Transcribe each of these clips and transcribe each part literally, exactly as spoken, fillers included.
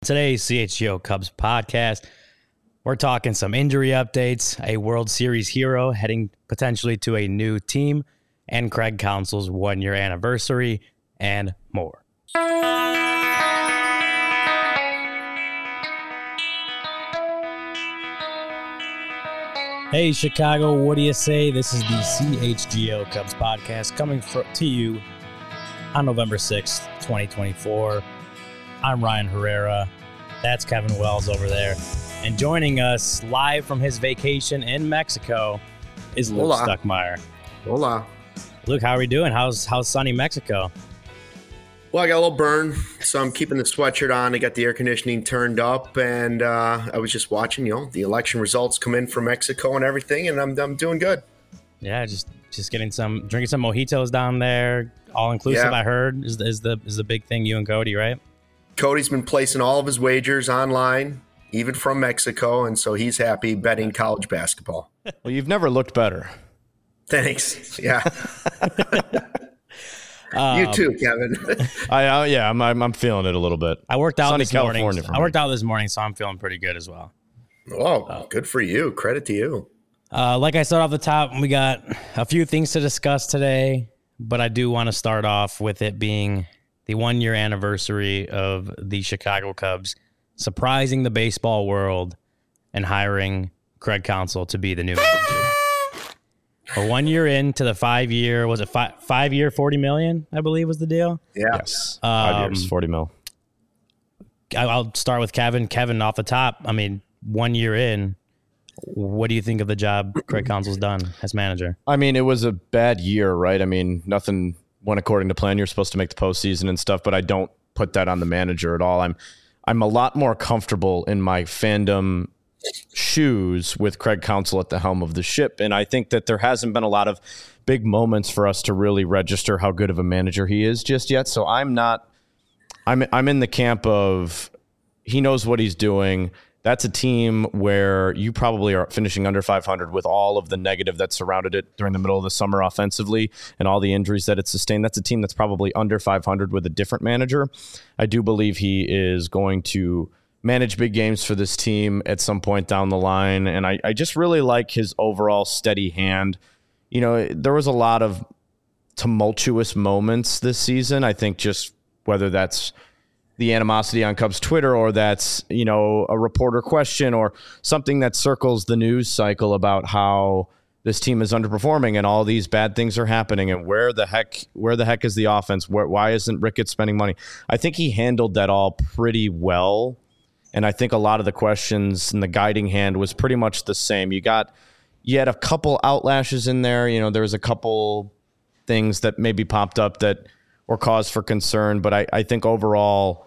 today's C H G O Cubs podcast, we're talking some injury updates, a World Series hero heading potentially to a new team, and Craig Counsell's one-year anniversary, and more. Hey, Chicago, what do you say? This is the C H G O Cubs podcast coming for, to you on November sixth, twenty twenty-four. I'm Ryan Herrera. That's Kevin Wells over there. And joining us live from his vacation in Mexico is Luke Hola. Stuckmeyer. Hola. Luke, how are we doing? How's how's sunny Mexico? Well, I got a little burn, so I'm keeping the sweatshirt on. I got the air conditioning turned up, and uh, I was just watching, you know, the election results come in from Mexico and everything, and I'm I'm doing good. Yeah, just just getting some, drinking some mojitos down there, all inclusive. Yeah. I heard is the, is the is the big thing. You and Cody, right? Cody's been placing all of his wagers online, even from Mexico, and so he's happy betting college basketball. Well, you've never looked better. Thanks. Yeah. Um, You too, Kevin. I uh, yeah, I'm, I'm I'm feeling it a little bit. I worked out Sunny this morning. California for I me. worked out this morning, so I'm feeling pretty good as well. Oh, good for you. Credit to you. Uh, like I said off the top, we got a few things to discuss today, but I do want to start off with it being the one-year anniversary of the Chicago Cubs surprising the baseball world and hiring Craig Counsell to be the new manager. We're one year into the five-year, was it five, five-year, forty million dollars, I believe was the deal? Yeah. Yes, five Um, years, forty mil. I- I'll start with Kevin. Kevin, off the top, I mean, one year in, what do you think of the job Craig Counsell's done as manager? I mean, it was a bad year, right? I mean, nothing went according to plan. You're supposed to make the postseason and stuff, but I don't put that on the manager at all. I'm I'm a lot more comfortable in my fandom shoes with Craig Counsell at the helm of the ship, and I think that there hasn't been a lot of big moments for us to really register how good of a manager he is just yet. So I'm not. I'm I'm in the camp of he knows what he's doing. That's a team where you probably are finishing under five hundred with all of the negative that surrounded it during the middle of the summer offensively and all the injuries that it sustained. That's a team that's probably under five hundred with a different manager. I do believe he is going to manage big games for this team at some point down the line. And I, I just really like his overall steady hand. You know, there was a lot of tumultuous moments this season. I think just whether that's the animosity on Cubs Twitter or that's, you know, a reporter question or something that circles the news cycle about how this team is underperforming and all these bad things are happening and where the heck, where the heck is the offense? Where, why isn't Ricketts spending money? I think he handled that all pretty well. And I think a lot of the questions and the guiding hand was pretty much the same. You got, you had a couple outlashes in there. You know, there was a couple things that maybe popped up that were cause for concern. But I, I think overall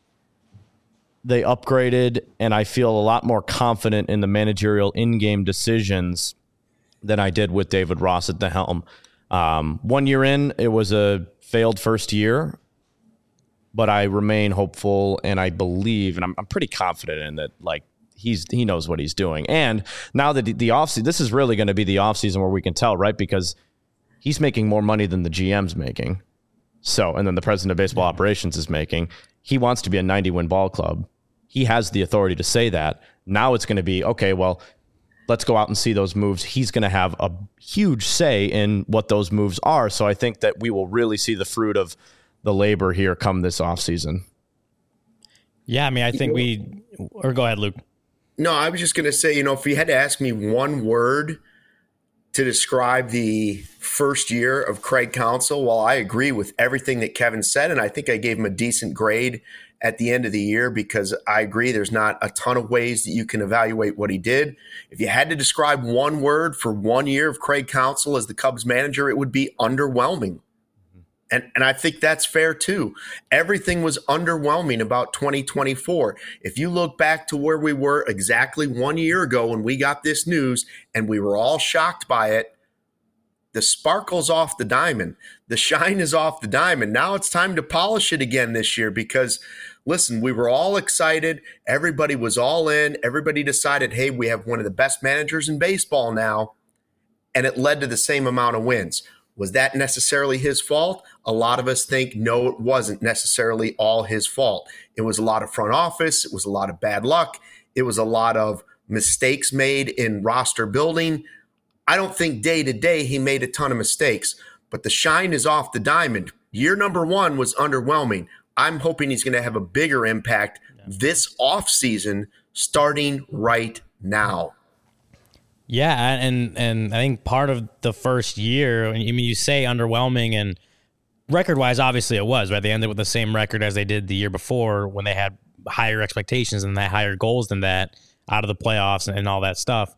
they upgraded, and I feel a lot more confident in the managerial in-game decisions than I did with David Ross at the helm. Um, one year in, it was a failed first year. But I remain hopeful, and I believe, and I'm, I'm pretty confident in that. Like he's he knows what he's doing, and now that the, the offseason, this is really going to be the offseason where we can tell, right? Because he's making more money than the G M's making. So, and then the president of baseball operations is making. He wants to be a ninety win ball club. He has the authority to say that. Now it's going to be okay. Well, let's go out and see those moves. He's going to have a huge say in what those moves are. So I think that we will really see the fruit of the labor here come this offseason. Yeah, I mean, I think we, or go ahead, Luke. No, I was just going to say, you know, if you had to ask me one word to describe the first year of Craig Counsell, well, I agree with everything that Kevin said, and I think I gave him a decent grade at the end of the year because I agree there's not a ton of ways that you can evaluate what he did. If you had to describe one word for one year of Craig Counsell as the Cubs manager, it would be underwhelming. And and I think that's fair too. Everything was underwhelming about twenty twenty-four. If you look back to where we were exactly one year ago when we got this news and we were all shocked by it, the sparkle's off the diamond. The shine is off the diamond. Now it's time to polish it again this year because, listen, we were all excited. Everybody was all in. Everybody decided, hey, we have one of the best managers in baseball now. And it led to the same amount of wins. Was that necessarily his fault? A lot of us think, no, it wasn't necessarily all his fault. It was a lot of front office. It was a lot of bad luck. It was a lot of mistakes made in roster building. I don't think day to day he made a ton of mistakes, but the shine is off the diamond. Year number one was underwhelming. I'm hoping he's going to have a bigger impact this offseason starting right now. Yeah, and and I think part of the first year, I mean, you say underwhelming, and record-wise, obviously it was, right? They ended with the same record as they did the year before when they had higher expectations and that higher goals than that out of the playoffs and all that stuff.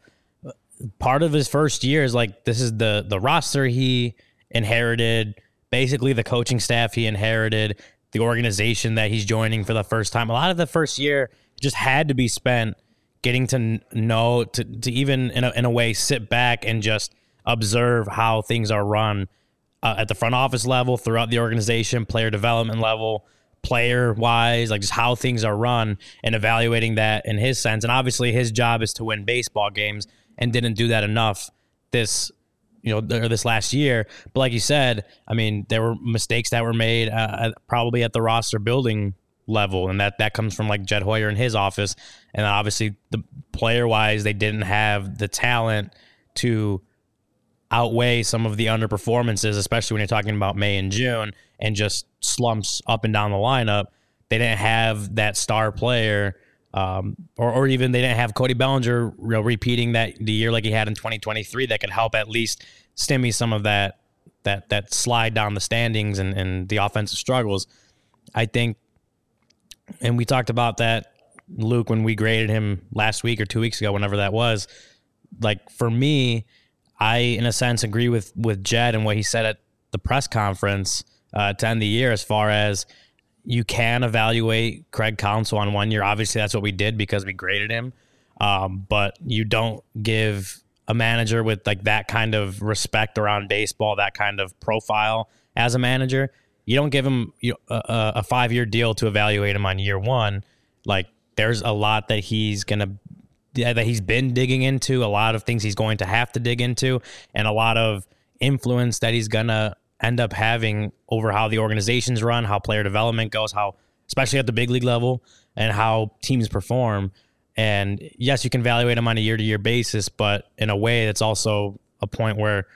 Part of his first year is like, this is the the roster he inherited, basically the coaching staff he inherited, the organization that he's joining for the first time. A lot of the first year just had to be spent getting to know, to, to even in a, in a way sit back and just observe how things are run uh, at the front office level, throughout the organization, player development level, player wise, like just how things are run, and evaluating that in his sense. And obviously his job is to win baseball games, and didn't do that enough this, you know, or this last year. But like you said, I mean, there were mistakes that were made uh, probably at the roster building level, and that that comes from like Jed Hoyer in his office. And obviously the player wise, they didn't have the talent to outweigh some of the underperformances, especially when you're talking about May and June and just slumps up and down the lineup. They didn't have that star player, um, or, or even they didn't have Cody Bellinger, you know, repeating that the year like he had in twenty twenty-three that could help at least stimmy some of that that that slide down the standings and, and the offensive struggles. I think, and we talked about that, Luke, when we graded him last week or two weeks ago, whenever that was. Like, for me, I, in a sense, agree with, with Jed and what he said at the press conference uh, to end the year, as far as you can evaluate Craig Counsell on one year. Obviously, that's what we did because we graded him. Um, but you don't give a manager with like that kind of respect around baseball, that kind of profile as a manager, you don't give him you know, a, a five-year deal to evaluate him on year one. Like, there's a lot that he's going to that he's been digging into, a lot of things he's going to have to dig into, and a lot of influence that he's going to end up having over how the organizations run, how player development goes, how, especially at the big league level, and how teams perform. And yes, you can evaluate him on a year-to-year basis, but in a way, it's also a point where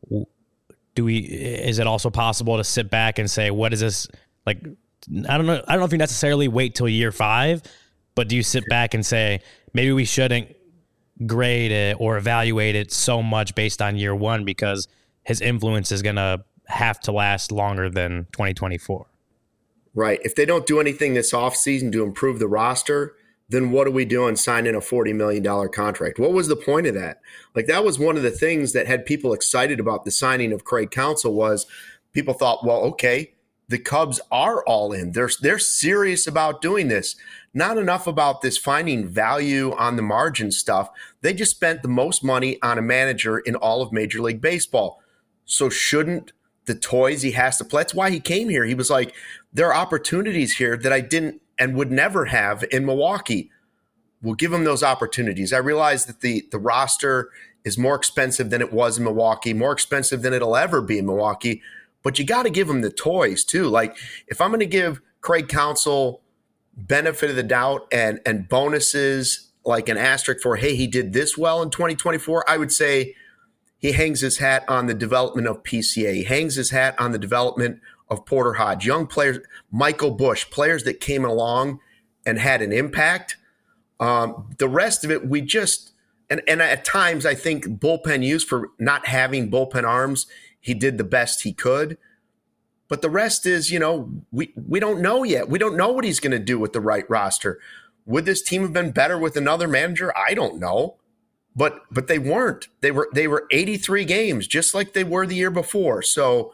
do we, is it also possible to sit back and say, what is this? Like, I don't know. I don't know if you necessarily wait till year five, but do you sit back and say, maybe we shouldn't grade it or evaluate it so much based on year one because his influence is going to have to last longer than twenty twenty-four. Right. If they don't do anything this offseason to improve the roster, then what are we doing signing a forty million dollars contract? What was the point of that? Like, that was one of the things that had people excited about the signing of Craig Counsell, was people thought, well, okay, the Cubs are all in. They're, they're serious about doing this. Not enough about this finding value on the margin stuff. They just spent the most money on a manager in all of Major League Baseball. So shouldn't the toys he has to play? That's why he came here. He was like, there are opportunities here that I didn't and would never have in Milwaukee. We'll give him those opportunities. I realize that the, the roster is more expensive than it was in Milwaukee, more expensive than it'll ever be in Milwaukee, but you got to give him the toys too. Like, if I'm going to give Craig Counsell benefit of the doubt and, and bonuses, like an asterisk for, hey, he did this well in twenty twenty-four, I would say he hangs his hat on the development of P C A. He hangs his hat on the development of Porter Hodge, young players, Michael Busch, players that came along and had an impact. Um, the rest of it, we just, and, and at times I think bullpen use, for not having bullpen arms, he did the best he could. But the rest is, you know, we, we don't know yet. We don't know what he's going to do with the right roster. Would this team have been better with another manager? I don't know. But but they weren't. They were they were eighty-three games, just like they were the year before. So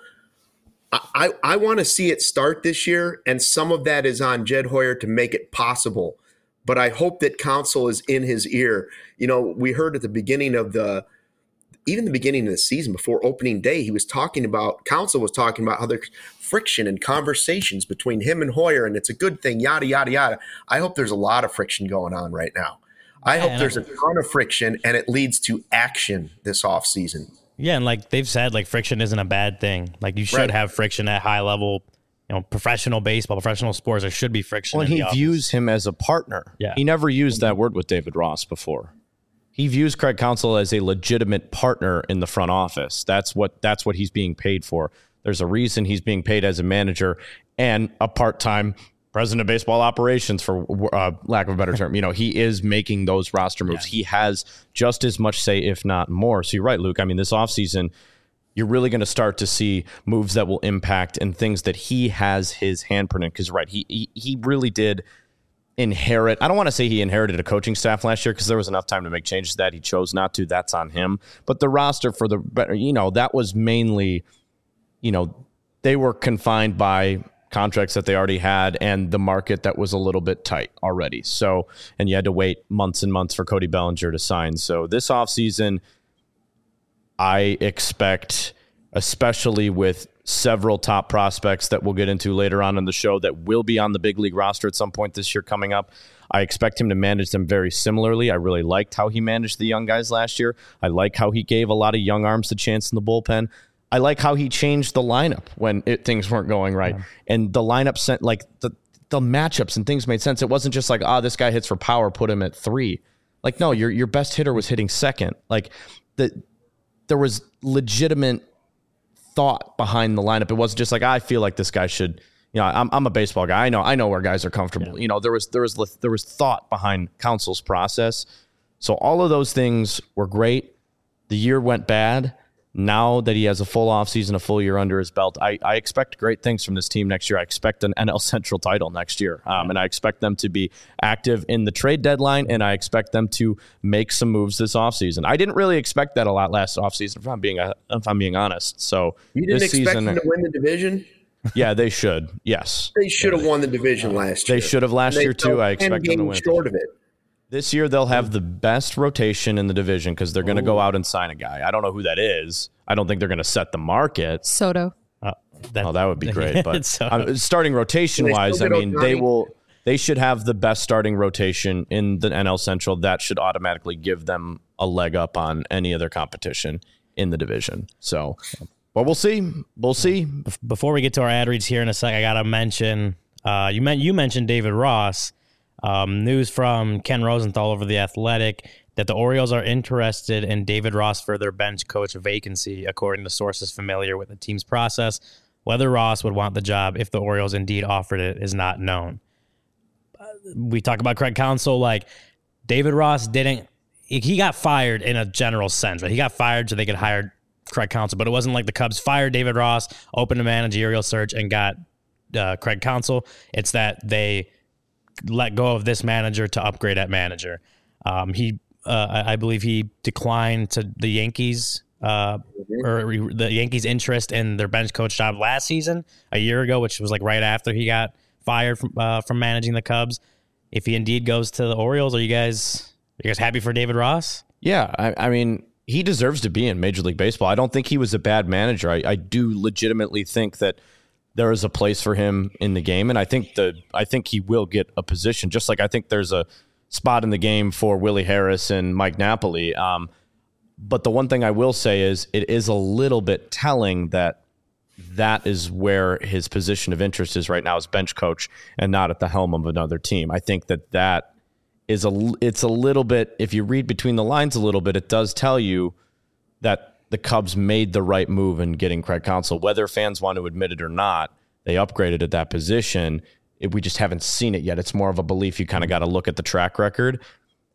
I, I want to see it start this year, and some of that is on Jed Hoyer to make it possible. But I hope that Counsell is in his ear. You know, we heard at the beginning of the, even the beginning of the season, before opening day, he was talking about, Counsell was talking about how there's friction and conversations between him and Hoyer, and it's a good thing, yada, yada, yada. I hope there's a lot of friction going on right now. I hope there's a ton of friction, and it leads to action this offseason. Yeah, and like they've said, like friction isn't a bad thing. Like you should right. have friction at high level, you know, professional baseball, professional sports. There should be friction. Well, and he office. views him as a partner. Yeah. He never used that word with David Ross before. He views Craig Counsell as a legitimate partner in the front office. That's what that's what he's being paid for. There's a reason he's being paid as a manager and a part-time president of baseball operations, for uh, lack of a better term. You know, he is making those roster moves. Yeah. He has just as much say, if not more. So you're right, Luke. I mean, this offseason, you're really going to start to see moves that will impact and things that he has his handprint in. Because, right, he, he he really did inherit. I don't want to say he inherited a coaching staff last year because there was enough time to make changes that he chose not to. That's on him. But the roster for the better, you know, that was mainly, you know, they were confined by contracts that they already had and the market that was a little bit tight already. So, and you had to wait months and months for Cody Bellinger to sign. So this offseason, I expect, especially with several top prospects that we'll get into later on in the show that will be on the big league roster at some point this year coming up, I expect him to manage them very similarly. I really liked how he managed the young guys last year. I like how he gave a lot of young arms a chance in the bullpen. I like how he changed the lineup when it, things weren't going right. Yeah. And the lineup sent like the, the matchups and things made sense. It wasn't just like, ah, oh, this guy hits for power, put him at three. Like, no, your your best hitter was hitting second. Like the there was legitimate thought behind the lineup. It wasn't just like, I feel like this guy should, you know, I'm I'm a baseball guy. I know, I know where guys are comfortable. Yeah. You know, there was, there was, there was thought behind Counsell's process. So all of those things were great. The year went bad. Now that he has a full offseason, a full year under his belt, I, I expect great things from this team next year. I expect an N L Central title next year. Um, and I expect them to be active in the trade deadline, and I expect them to make some moves this offseason. I didn't really expect that a lot last offseason, if I'm being, if I'm being honest. So you didn't this expect season, them to win the division? Yeah, they should. Yes. They should have won the division last year. They should have last year, too. I expect them to win. Short of it. This year, they'll have the best rotation in the division because they're going to go out and sign a guy. I don't know who that is. I don't think they're going to set the market. Soto. Uh, that, oh, that would be great. But uh, starting rotation-wise, I mean, they will. They should have the best starting rotation in the N L Central. That should automatically give them a leg up on any other competition in the division. So, but we'll see. We'll see. Before we get to our ad reads here in a sec, I got to mention, uh, you, meant, you mentioned David Ross. Um, news from Ken Rosenthal over The Athletic that the Orioles are interested in David Ross for their bench coach vacancy, according to sources familiar with the team's process. Whether Ross would want the job if the Orioles indeed offered it is not known. Uh, we talk about Craig Counsell, like David Ross didn't, he got fired in a general sense, right? He got fired so they could hire Craig Counsell, but it wasn't like the Cubs fired David Ross, opened a managerial search, and got uh, Craig Counsell. It's that they let go of this manager to upgrade at manager. Um, he, uh, I, I believe he declined to the Yankees, uh, or the Yankees' interest in their bench coach job last season, a year ago, which was like right after he got fired from uh, from managing the Cubs. If he indeed goes to the Orioles, are you guys are you guys happy for David Ross? Yeah, I, I mean, he deserves to be in Major League Baseball. I don't think he was a bad manager. I, I do legitimately think that there is a place for him in the game, and I think the I think he will get a position. Just like I think there's a spot in the game for Willie Harris and Mike Napoli. Um, but the one thing I will say is it is a little bit telling that that is where his position of interest is right now as bench coach and not at the helm of another team. I think that that is a it's a little bit. If you read between the lines a little bit, it does tell you that the Cubs made the right move in getting Craig Counsell. Whether fans want to admit it or not, they upgraded at that position. It, we just haven't seen it yet. It's more of a belief. You kind of got to look at the track record.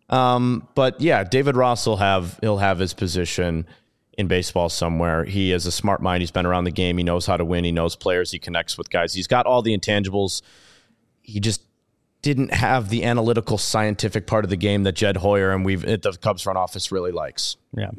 Um, but yeah, David Ross will have he'll have his position in baseball somewhere. He is a smart mind. He's been around the game. He knows how to win. He knows players. He connects with guys. He's got all the intangibles. He just didn't have the analytical, scientific part of the game that Jed Hoyer and we've the Cubs front office really likes. Yeah.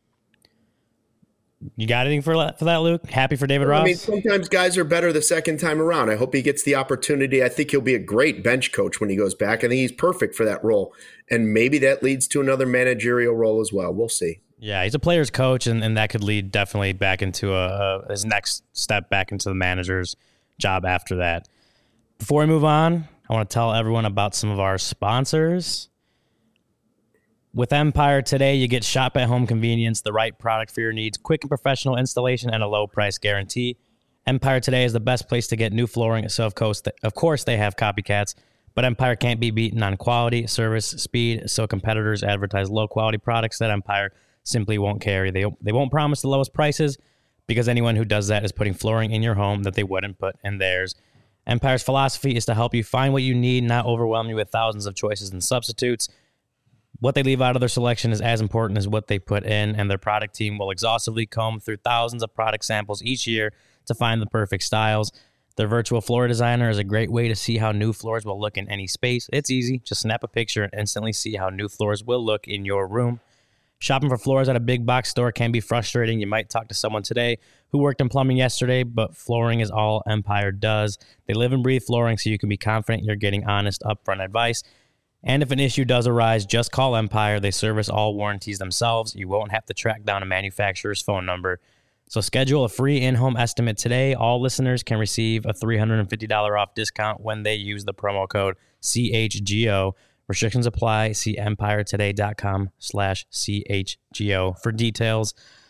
You got anything for for that, Luke? Happy for David Ross? I mean, sometimes guys are better the second time around. I hope he gets the opportunity. I think he'll be a great bench coach when he goes back. I think he's perfect for that role. And maybe that leads to another managerial role as well. We'll see. Yeah, he's a player's coach, and, and that could lead definitely back into a, a his next step back into the manager's job after that. Before we move on, I want to tell everyone about some of our sponsors. With Empire today, you get shop at home convenience, the right product for your needs, quick and professional installation, and a low price guarantee. Empire today is the best place to get new flooring, so of course, of course they have copycats, but Empire can't be beaten on quality, service, speed, so competitors advertise low quality products that Empire simply won't carry. They, they won't promise the lowest prices because anyone who does that is putting flooring in your home that they wouldn't put in theirs. Empire's philosophy is to help you find what you need, not overwhelm you with thousands of choices and substitutes. What they leave out of their selection is as important as what they put in, and their product team will exhaustively comb through thousands of product samples each year to find the perfect styles. Their virtual floor designer is a great way to see how new floors will look in any space. It's easy. Just snap a picture and instantly see how new floors will look in your room. Shopping for floors at a big box store can be frustrating. You might talk to someone today who worked in plumbing yesterday, but flooring is all Empire does. They live and breathe flooring, so you can be confident you're getting honest, upfront advice. And if an issue does arise, just call Empire. They service all warranties themselves. You won't have to track down a manufacturer's phone number. So schedule a free in-home estimate today. All listeners can receive a three hundred fifty dollars off discount when they use the promo code C H G O. Restrictions apply. See empiretoday.com slash CHGO for details.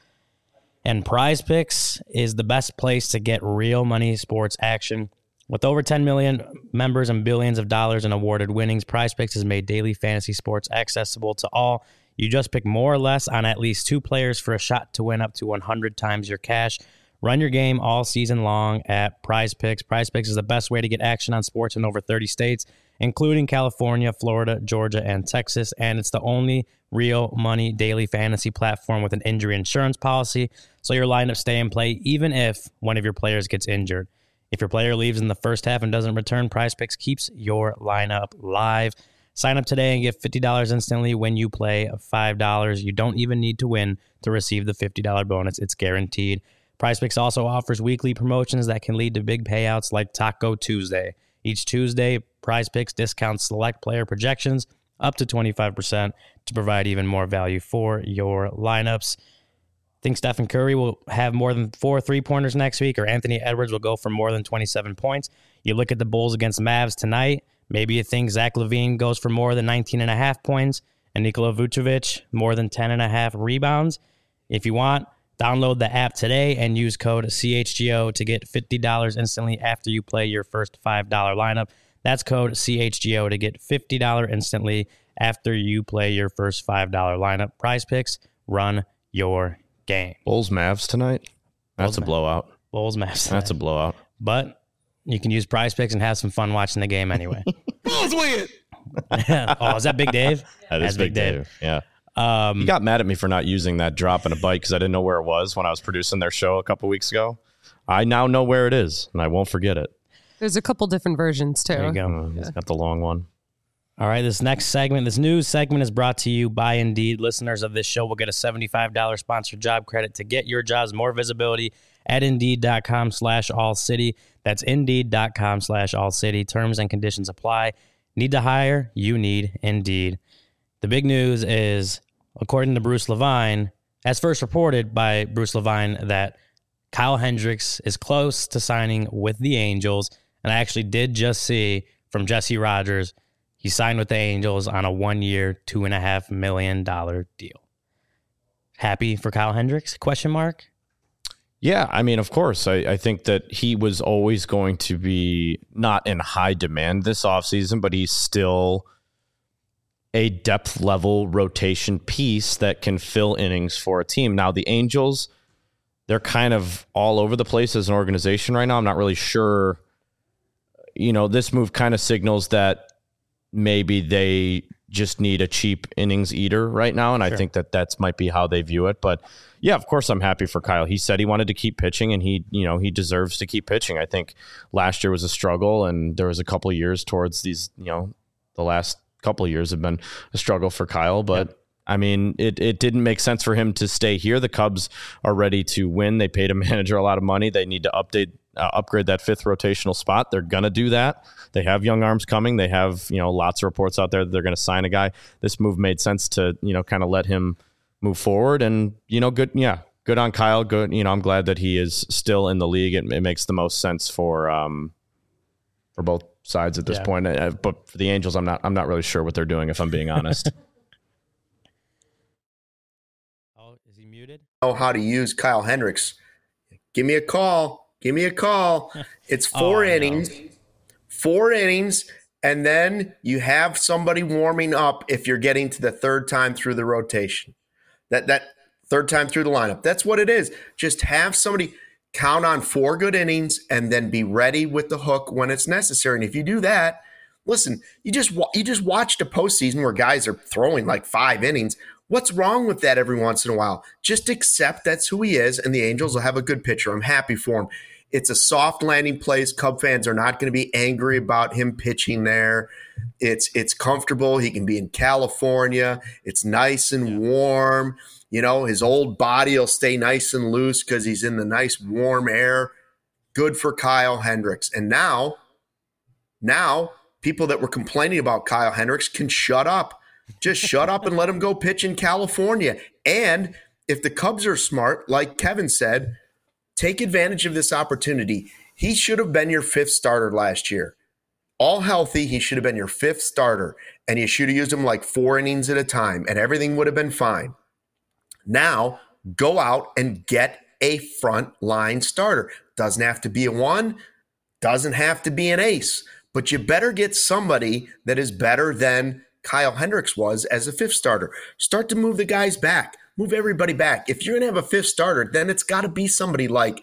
And Prize Picks is the best place to get real money sports action. With over ten million members and billions of dollars in awarded winnings, Prize Picks has made daily fantasy sports accessible to all. You just pick more or less on at least two players for a shot to win up to one hundred times your cash. Run your game all season long at Prize Picks. Prize Picks is the best way to get action on sports in over thirty states, including California, Florida, Georgia, and Texas. And it's the only real money daily fantasy platform with an injury insurance policy, so your lineup stay in play even if one of your players gets injured. If your player leaves in the first half and doesn't return, Prize Picks keeps your lineup live. Sign up today and get fifty dollars instantly when you play five dollars. You don't even need to win to receive the fifty dollars bonus. It's guaranteed. Prize Picks also offers weekly promotions that can lead to big payouts like Taco Tuesday. Each Tuesday, Prize Picks discounts select player projections up to twenty-five percent to provide even more value for your lineups. Think Stephen Curry will have more than four three-pointers next week, or Anthony Edwards will go for more than twenty-seven points. You look at the Bulls against Mavs tonight. Maybe you think Zach LaVine goes for more than nineteen and a half points and Nikola Vucevic more than ten and a half rebounds. If you want, download the app today and use code C H G O to get fifty dollars instantly after you play your first five dollars lineup. That's code C H G O to get fifty dollars instantly after you play your first five dollars lineup. Prize Picks, run your game. Bulls Mavs tonight. That's Bulls, a blowout. Bulls Mavs. Tonight. That's a blowout. But you can use Prize Picks and have some fun watching the game anyway. Bulls win. Oh, is that Big Dave? That is That's Big Dave. Dave. Yeah. Um, he got mad at me for not using that drop in a bite because I didn't know where it was when I was producing their show a couple weeks ago. I now know where it is, and I won't forget it. There's a couple different versions, too. There you go. Uh, he's got the long one. All right, this next segment, this news segment is brought to you by Indeed. Listeners of this show will get a seventy-five dollars sponsored job credit to get your jobs more visibility at Indeed.com slash All City. That's Indeed.com slash All City. Terms and conditions apply. Need to hire? You need Indeed. The big news is, according to Bruce Levine, as first reported by Bruce Levine, that Kyle Hendricks is close to signing with the Angels. And I actually did just see from Jesse Rogers, he signed with the Angels on a one-year, two point five million dollars deal. Happy for Kyle Hendricks? Question mark? Yeah, I mean, of course. I, I think that he was always going to be not in high demand this offseason, but he's still a depth level rotation piece that can fill innings for a team. Now, the Angels, they're kind of all over the place as an organization right now. I'm not really sure. You know, this move kind of signals that maybe they just need a cheap innings eater right now. And sure. I think that that's might be how they view it. But yeah, of course I'm happy for Kyle. He said he wanted to keep pitching and he, you know, he deserves to keep pitching. I think last year was a struggle and there was a couple of years towards these, you know, the last couple of years have been a struggle for Kyle, but yeah. I mean, it, it didn't make sense for him to stay here. The Cubs are ready to win. They paid a manager a lot of money. They need to update, uh, upgrade that fifth rotational spot. They're going to do that. They have young arms coming. They have, you know, lots of reports out there that they're going to sign a guy. This move made sense to, you know, kind of let him move forward and, you know, good. Yeah. Good on Kyle. Good. You know, I'm glad that he is still in the league. It, it makes the most sense for, um, for both sides at this yeah. point. Uh, but for the Angels, I'm not, I'm not really sure what they're doing, if I'm being honest. know how to use Kyle Hendricks, give me a call. Give me a call. It's four oh, innings, no. four innings, and then you have somebody warming up if you're getting to the third time through the rotation. That that third time through the lineup. That's what it is. Just have somebody count on four good innings and then be ready with the hook when it's necessary. And if you do that, listen, you just you just watched a postseason where guys are throwing like five innings. What's wrong with that every once in a while? Just accept that's who he is, and the Angels will have a good pitcher. I'm happy for him. It's a soft landing place. Cub fans are not going to be angry about him pitching there. It's it's comfortable. He can be in California. It's nice and warm. You know, his old body will stay nice and loose because he's in the nice warm air. Good for Kyle Hendricks. And now, now people that were complaining about Kyle Hendricks can shut up. Just shut up and let him go pitch in California. And if the Cubs are smart, like Kevin said, take advantage of this opportunity. He should have been your fifth starter last year. All healthy, he should have been your fifth starter, and you should have used him like four innings at a time, and everything would have been fine. Now, go out and get a front line starter. Doesn't have to be a one, doesn't have to be an ace, but you better get somebody that is better than Kyle Hendricks was as a fifth starter. Start to move the guys back. Move everybody back. If you're going to have a fifth starter, then it's got to be somebody like,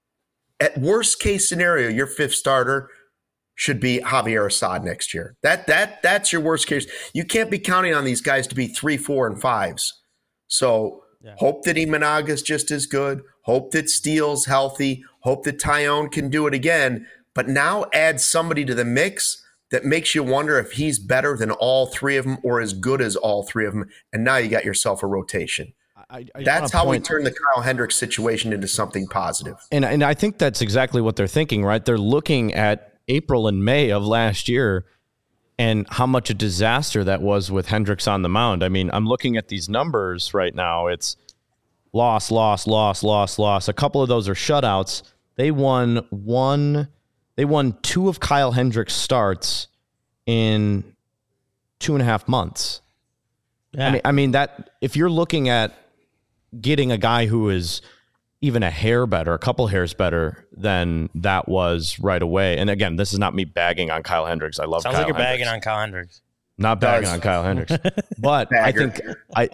at worst case scenario, your fifth starter should be Javier Assad next year. That that That's your worst case. You can't be counting on these guys to be three, four, and fives. So yeah. Hope that Imanaga's just as good. Hope that Steele's healthy. Hope that Taillon can do it again. But now add somebody to the mix that makes you wonder if he's better than all three of them or as good as all three of them. And now you got yourself a rotation. I, I that's how point. we turn the Kyle Hendricks situation into something positive. And and I think that's exactly what they're thinking, right? They're looking at April and May of last year and how much a disaster that was with Hendricks on the mound. I mean, I'm looking at these numbers right now. It's loss, loss, loss, loss, loss. A couple of those are shutouts. They won one. They won two of Kyle Hendricks' starts in two and a half months. Yeah. I mean, I mean that if you're looking at getting a guy who is even a hair better, a couple hairs better than that was right away. And again, this is not me bagging on Kyle Hendricks. I love Sounds Kyle like you're Hendricks. bagging on Kyle Hendricks. Not bagging on Kyle Hendricks. But I think I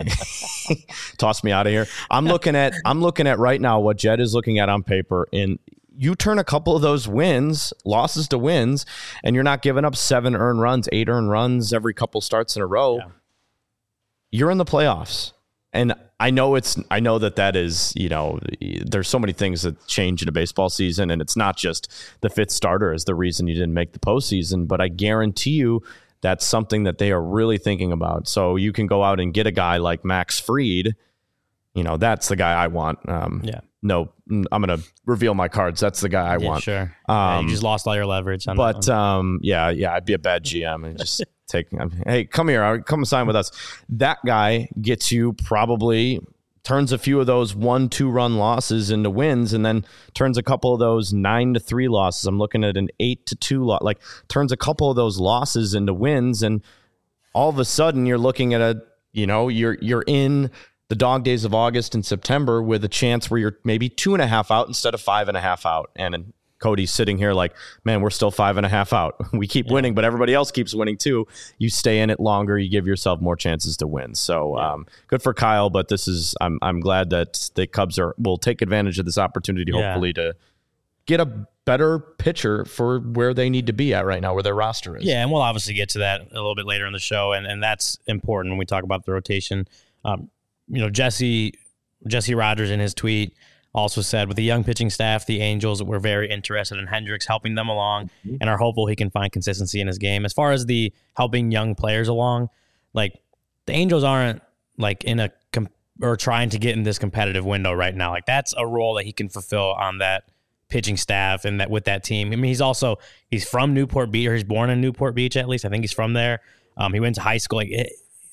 toss me out of here. I'm looking at I'm looking at right now what Jed is looking at on paper, and you turn a couple of those wins, losses to wins, and you're not giving up seven earned runs, eight earned runs every couple starts in a row. Yeah. You're in the playoffs. And I know it's, I know that that is, you know, there's so many things that change in a baseball season, and it's not just the fifth starter is the reason you didn't make the postseason, but I guarantee you that's something that they are really thinking about. So you can go out and get a guy like Max Fried. You know, that's the guy I want. Um, yeah. No, I'm going to reveal my cards. That's the guy I yeah, want. Sure. Um, yeah, you just lost all your leverage. On but that um, yeah, yeah, I'd be a bad G M and just take, hey, come here, come sign with us. That guy gets you probably turns a few of those one, two run losses into wins, and then turns a couple of those nine to three losses. I'm looking at an eight to two lot, like turns a couple of those losses into wins. And all of a sudden you're looking at a, you know, you're, you're in the dog days of August and September with a chance where you're maybe two and a half out instead of five and a half out. And, and Cody's sitting here like, man, we're still five and a half out. We keep yeah. winning, but everybody else keeps winning too. You stay in it longer. You give yourself more chances to win. So yeah. um, good for Kyle, but this is, I'm, I'm glad that the Cubs are, will take advantage of this opportunity, yeah. hopefully to get a better pitcher for where they need to be at right now, where their roster is. Yeah. And we'll obviously get to that a little bit later in the show. And, and that's important when we talk about the rotation. Um, You know, Jesse Jesse Rogers in his tweet also said, with the young pitching staff, the Angels were very interested in Hendricks helping them along and are hopeful he can find consistency in his game. As far as the helping young players along, like the Angels aren't like in a com- or trying to get in this competitive window right now. Like that's a role that he can fulfill on that pitching staff and that with that team. I mean, he's also he's from Newport Beach, or he's born in Newport Beach at least. I think he's from there. Um, he went to high school like. It,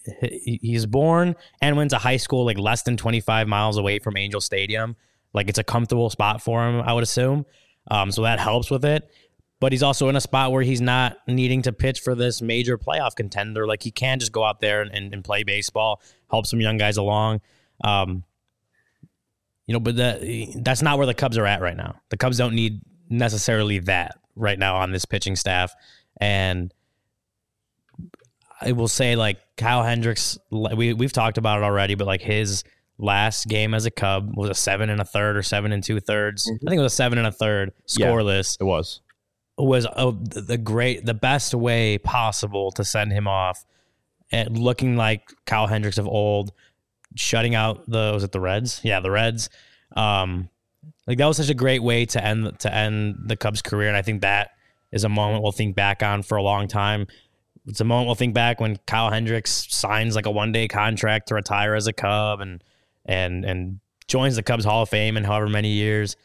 He's born and went to high school like less than twenty-five miles away from Angel Stadium. Like it's a comfortable spot for him, I would assume. Um, so that helps with it. But he's also in a spot where he's not needing to pitch for this major playoff contender. Like he can just go out there and, and, and play baseball, help some young guys along. Um, you know, but the, that's not where the Cubs are at right now. The Cubs don't need necessarily that right now on this pitching staff. And I will say, like, Kyle Hendricks, we, we've talked about it already, but like his last game as a Cub was a seven and a third or seven and two thirds. Mm-hmm. I think it was a seven and a third scoreless. Yeah, it was. was a, the great, the best way possible to send him off, and looking like Kyle Hendricks of old, shutting out the, was it the Reds? Yeah, the Reds. Um, like that was such a great way to end to end the Cubs' career, and I think that is a moment we'll think back on for a long time. It's a moment we'll think back when Kyle Hendricks signs like a one day contract to retire as a Cub and and and joins the Cubs Hall of Fame in however many years.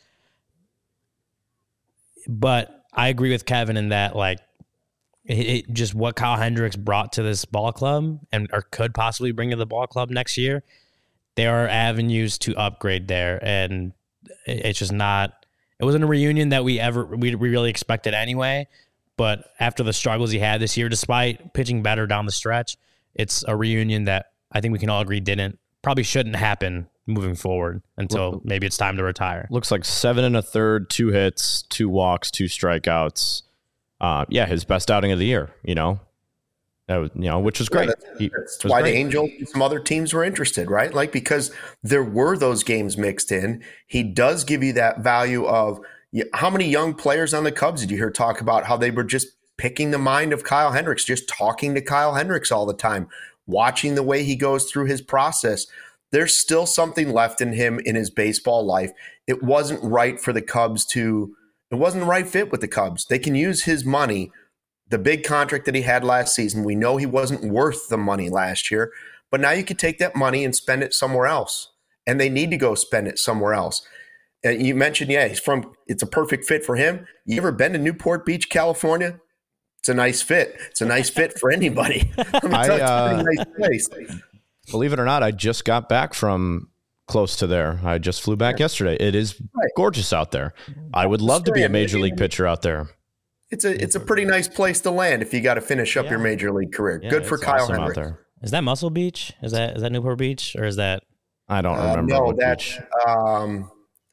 But I agree with Kevin in that, like, it, it just what Kyle Hendricks brought to this ball club and or could possibly bring to the ball club next year. There are avenues to upgrade there, and it, it's just not. It wasn't a reunion that we ever we, we really expected anyway. But after the struggles he had this year, despite pitching better down the stretch, it's a reunion that I think we can all agree didn't probably shouldn't happen moving forward until maybe it's time to retire. Looks like seven and a third, two hits, two walks, two strikeouts. Uh, yeah, his best outing of the year. You know, that was, you know, which was great. Yeah, that's, he, that's why great. The Angels and some other teams were interested, right? Like, because there were those games mixed in. He does give you that value of. How many young players on the Cubs did you hear talk about how they were just picking the mind of Kyle Hendricks, just talking to Kyle Hendricks all the time, watching the way he goes through his process? There's still something left in him in his baseball life. It wasn't right for the Cubs to – it wasn't the right fit with the Cubs. They can use his money, the big contract that he had last season. We know he wasn't worth the money last year, but now you could take that money and spend it somewhere else, and they need to go spend it somewhere else. And you mentioned, yeah, he's from. It's a perfect fit for him. You ever been to Newport Beach, California? It's a nice fit. It's a nice fit for anybody. Let me I, tell you, it's uh, a pretty nice place. Believe it or not, I just got back from close to there. I just flew back yesterday. It is right. gorgeous out there. I would love to be a major league pitcher out there. It's a it's a pretty nice place to land if you got to finish up yeah. your major league career. Yeah, Good for Kyle awesome Hendricks. Out there. Is that Muscle Beach? Is that is that Newport Beach or is that? I don't remember. Uh, no, what that's. beach. Um,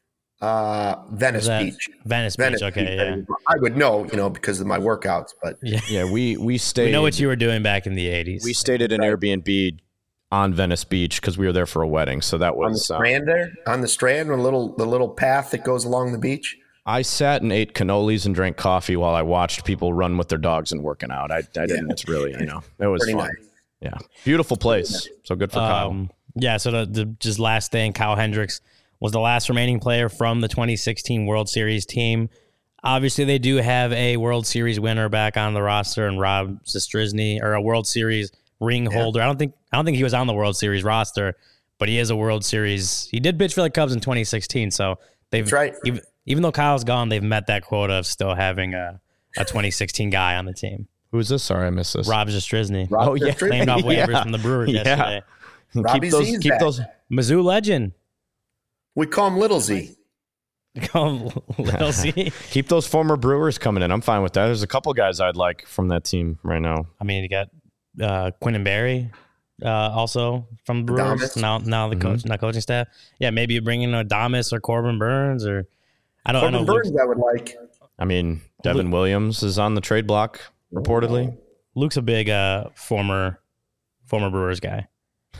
Uh, Venice Beach. Venice, Venice Beach. Okay, Beach, yeah. I would know, you know, because of my workouts. But yeah, yeah we we stayed. We know what you were doing back in the eighties. We stayed at an right. Airbnb on Venice Beach because we were there for a wedding. So that was on the Strand uh, there, on the Strand, a little the little path that goes along the beach. I sat and ate cannolis and drank coffee while I watched people run with their dogs and working out. I, I didn't. Yeah. It's really, you know, it was Pretty fun. Nice. Yeah, beautiful place. So good for Kyle. Um, yeah. So the, the just last thing, Kyle Hendricks was the last remaining player from the twenty sixteen World Series team. Obviously, they do have a World Series winner back on the roster, and Rob Zastryzny, or a World Series ring holder. Yeah. I don't think I don't think he was on the World Series roster, but he is a World Series. He did pitch for the Cubs in twenty sixteen, so they've That's right. even, even though Kyle's gone, they've met that quota of still having a, a twenty sixteen guy on the team. Who is this? Sorry, I missed this. Rob Zastryzny. Rob oh yeah, claimed off waivers yeah. from the Brewers yeah. yesterday. Keep those. Keep back. those. Mizzou legend. We call him Little Z. Call him Little Z. Keep those former Brewers coming in. I'm fine with that. There's a couple guys I'd like from that team right now. I mean, you got uh, Quinn Berry, uh, also from the Brewers. Adames. Now, now the Mm-hmm. coach, not coaching staff. Yeah, maybe you bring in Adames or Corbin Burns, or I don't Corbin know. Burns, I would like. I mean, Devin Luke, Williams is on the trade block reportedly. Luke's a big uh, former former Brewers guy.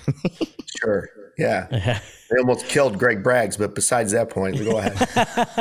Sure. Yeah. They almost killed Greg Braggs, but besides that point, go ahead.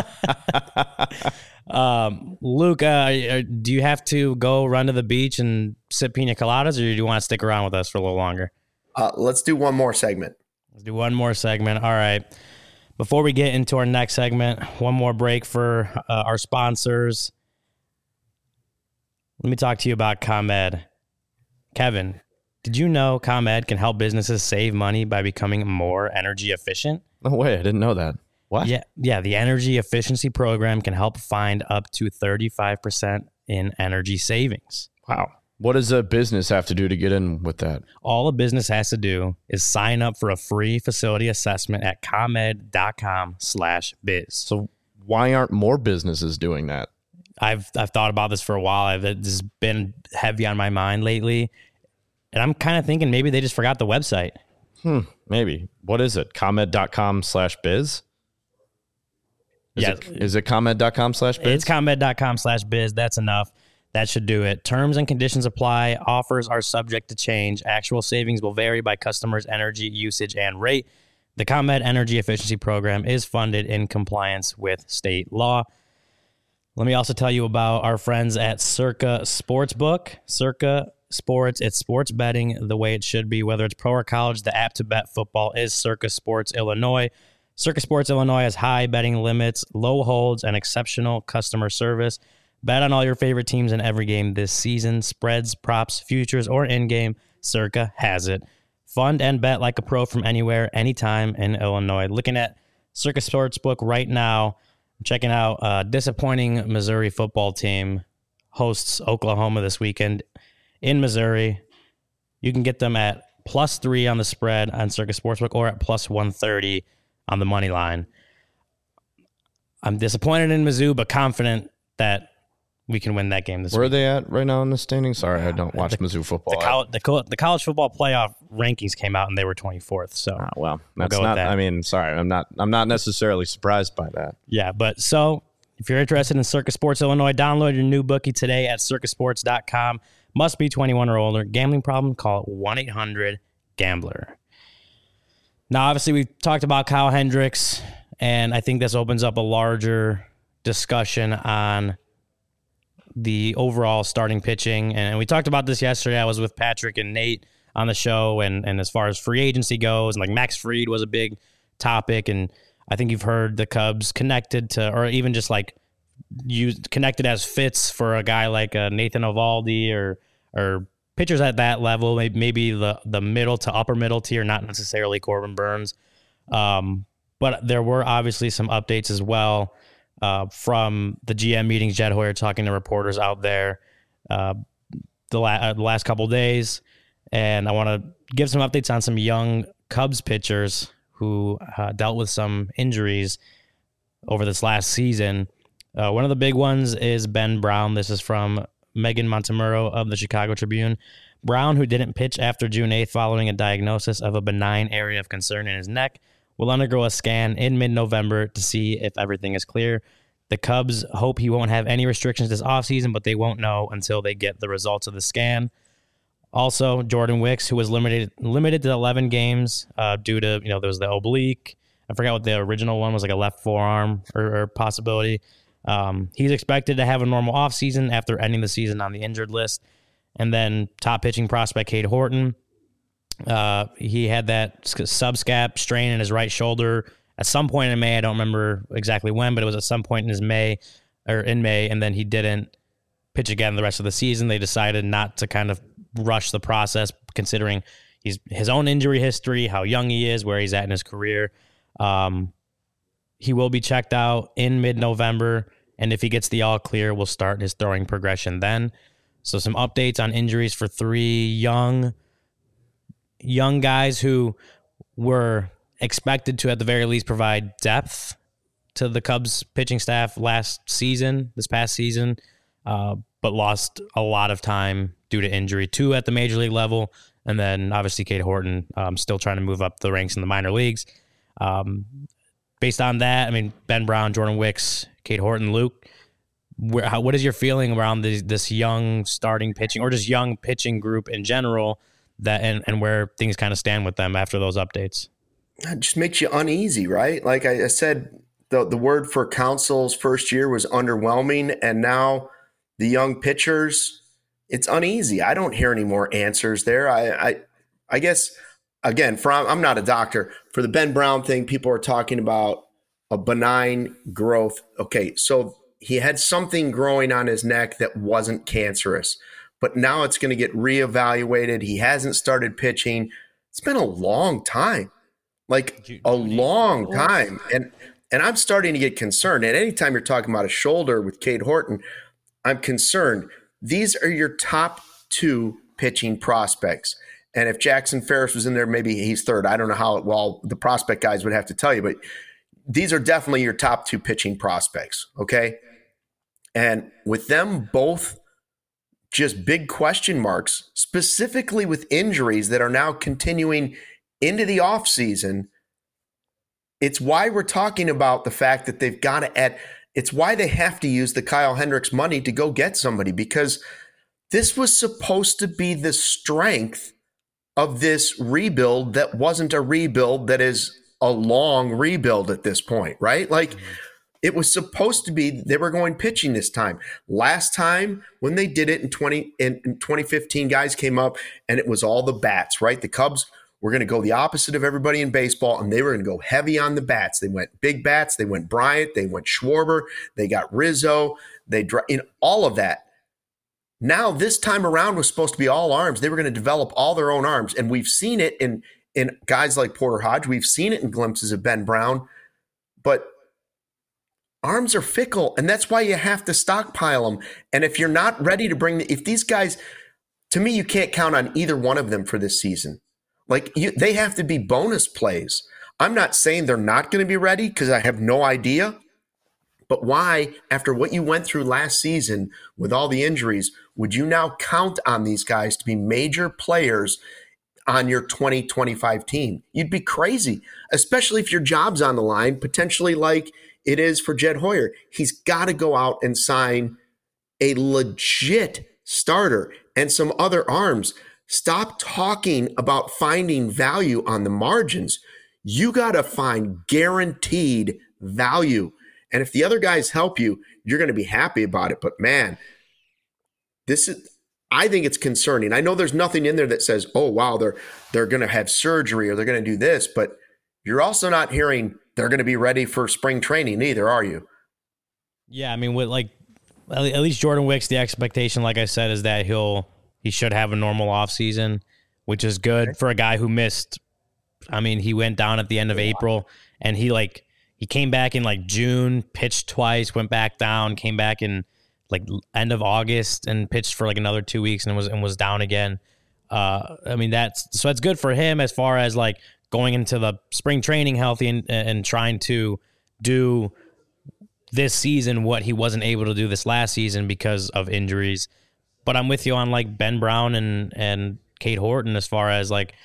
um, Luke, uh, do you have to go run to the beach and sip pina coladas, or do you want to stick around with us for a little longer? Uh, let's do one more segment. Let's do one more segment. All right. Before we get into our next segment, one more break for uh, our sponsors. Let me talk to you about ComEd. Kevin, did you know ComEd can help businesses save money by becoming more energy efficient? No way. I didn't know that. What? Yeah, yeah. The energy efficiency program can help find up to thirty-five percent in energy savings. Wow. What does a business have to do to get in with that? All a business has to do is sign up for a free facility assessment at comed.com slash biz. So why aren't more businesses doing that? I've I've thought about this for a while. I've, this has been heavy on my mind lately. And I'm kind of thinking maybe they just forgot the website. Hmm, maybe. What is it? ComEd.com slash biz? Is yeah. It, is it ComEd.com slash biz? It's ComEd.com slash biz. That's enough. That should do it. Terms and conditions apply. Offers are subject to change. Actual savings will vary by customers' energy usage and rate. The ComEd Energy Efficiency Program is funded in compliance with state law. Let me also tell you about our friends at Circa Sportsbook. Circa Sports, it's sports betting the way it should be, whether it's pro or college. The app to bet football is Circa Sports Illinois. Circa Sports Illinois has high betting limits, low holds, and exceptional customer service. Bet on all your favorite teams in every game this season. Spreads, props, futures, or in-game, Circa has it. Fund and bet like a pro from anywhere, anytime in Illinois. Looking at Circa Sportsbook right now, checking out a disappointing Missouri football team hosts Oklahoma this weekend in Missouri. You can get them at plus three on the spread on Circa Sportsbook or at plus one thirty on the money line. I'm disappointed in Mizzou, but confident that we can win that game this Where week. are they at right now in the standings? Sorry, I don't watch the, Mizzou football. The, col- the, co- the college football playoff rankings came out and they were twenty-fourth. So, ah, well, we'll that's go with not. that. I mean, sorry, I'm not. I'm not necessarily surprised by that. Yeah, but so if you're interested in Circa Sports Illinois, download your new bookie today at circa sports dot com. Must be twenty-one or older. Gambling problem? Call one eight hundred gambler. Now, obviously, we've talked about Kyle Hendricks, and I think this opens up a larger discussion on the overall starting pitching. And we talked about this yesterday. I was with Patrick and Nate on the show, and, and as far as free agency goes, and like Max Fried was a big topic, and I think you've heard the Cubs connected to, or even just like used connected as fits for a guy like uh, Nathan Eovaldi or or pitchers at that level, maybe, maybe the the middle to upper middle tier, not necessarily Corbin Burns. Um, but there were obviously some updates as well uh, from the G M meetings. Jed Hoyer talking to reporters out there uh, the, la- uh, the last couple of days, and I want to give some updates on some young Cubs pitchers who uh, dealt with some injuries over this last season. Uh, one of the big ones is Ben Brown. This is from Megan Montemurro of the Chicago Tribune. Brown, who didn't pitch after June eighth following a diagnosis of a benign area of concern in his neck, will undergo a scan in mid-November to see if everything is clear. The Cubs hope he won't have any restrictions this offseason, but they won't know until they get the results of the scan. Also, Jordan Wicks, who was limited limited to eleven games uh, due to, you know, there was the oblique. I forgot what the original one was, like a left forearm or, or possibility. Um, he's expected to have a normal offseason after ending the season on the injured list. And then top pitching prospect Cade Horton. Uh, he had that subscap strain in his right shoulder at some point in May. I don't remember exactly when, but it was at some point in his May or in May. And then he didn't pitch again the rest of the season. They decided not to kind of rush the process, considering he's his own injury history, how young he is, where he's at in his career. Um, he will be checked out in mid-November, and if he gets the all clear, we'll start his throwing progression then. So some updates on injuries for three young, young guys who were expected to, at the very least, provide depth to the Cubs pitching staff last season, this past season, uh, but lost a lot of time due to injury. Two at the major league level, and then obviously Cade Horton um, still trying to move up the ranks in the minor leagues. Um, based on that, I mean, Ben Brown, Jordan Wicks, Cade Horton, Luke, where, how, what is your feeling around this, this young starting pitching or just young pitching group in general, that and, and where things kind of stand with them after those updates? It just makes you uneasy, right? Like I, I said, the, the word for Council's first year was underwhelming, and now the young pitchers, it's uneasy. I don't hear any more answers there. I, I, I guess, again, from I'm not a doctor. For the Ben Brown thing, people are talking about a benign growth. Okay, so he had something growing on his neck that wasn't cancerous, but now it's going to get reevaluated. He hasn't started pitching. It's been a long time, like a long time. And and I'm starting to get concerned. And anytime you're talking about a shoulder with Cade Horton, I'm concerned. These are your top two pitching prospects. And if Jackson Ferris was in there, maybe he's third. I don't know how well the prospect guys would have to tell you, but these are definitely your top two pitching prospects, okay? And with them both just big question marks, specifically with injuries that are now continuing into the offseason, It's why we're talking about the fact that they've got to add. It's why they have to use the Kyle Hendricks money to go get somebody, because this was supposed to be the strength of this rebuild that wasn't a rebuild that is a long rebuild at this point, right? Like mm-hmm. It was supposed to be they were going pitching this time. Last time when they did it in twenty in, in twenty fifteen, guys came up and it was all the bats, right? The Cubs were going to go the opposite of everybody in baseball, and they were going to go heavy on the bats. They went big bats. They went Bryant. They went Schwarber. They got Rizzo. They in all of that. Now this time around was supposed to be all arms. They were going to develop all their own arms, and we've seen it in in guys like Porter Hodge. We've seen it in glimpses of Ben Brown, but arms are fickle, and that's why you have to stockpile them. And if you're not ready to bring the, if these guys, to me, you can't count on either one of them for this season. Like you, they have to be bonus plays. I'm not saying they're not going to be ready because I have no idea. But why, after what you went through last season with all the injuries, would you now count on these guys to be major players on your twenty twenty-five team? You'd be crazy, especially if your job's on the line, potentially like it is for Jed Hoyer. He's got to go out and sign a legit starter and some other arms. Stop talking about finding value on the margins. You got to find guaranteed value. And if the other guys help you, you're going to be happy about it. But man, this is, I think it's concerning. I know there's nothing in there that says, oh, wow, they're, they're going to have surgery or they're going to do this, but you're also not hearing they're going to be ready for spring training either, are you? Yeah. I mean, with like, at least Jordan Wicks, the expectation, like I said, is that he'll, he should have a normal offseason, which is good okay. for a guy who missed. I mean, he went down at the end of April, and he like he came back in like June, pitched twice, went back down, came back in like end of August and pitched for like another two weeks and was and was down again. Uh, I mean, that's so that's good for him as far as like going into the spring training healthy and and trying to do this season what he wasn't able to do this last season because of injuries. But I'm with you on like Ben Brown and, and Cade Horton as far as like,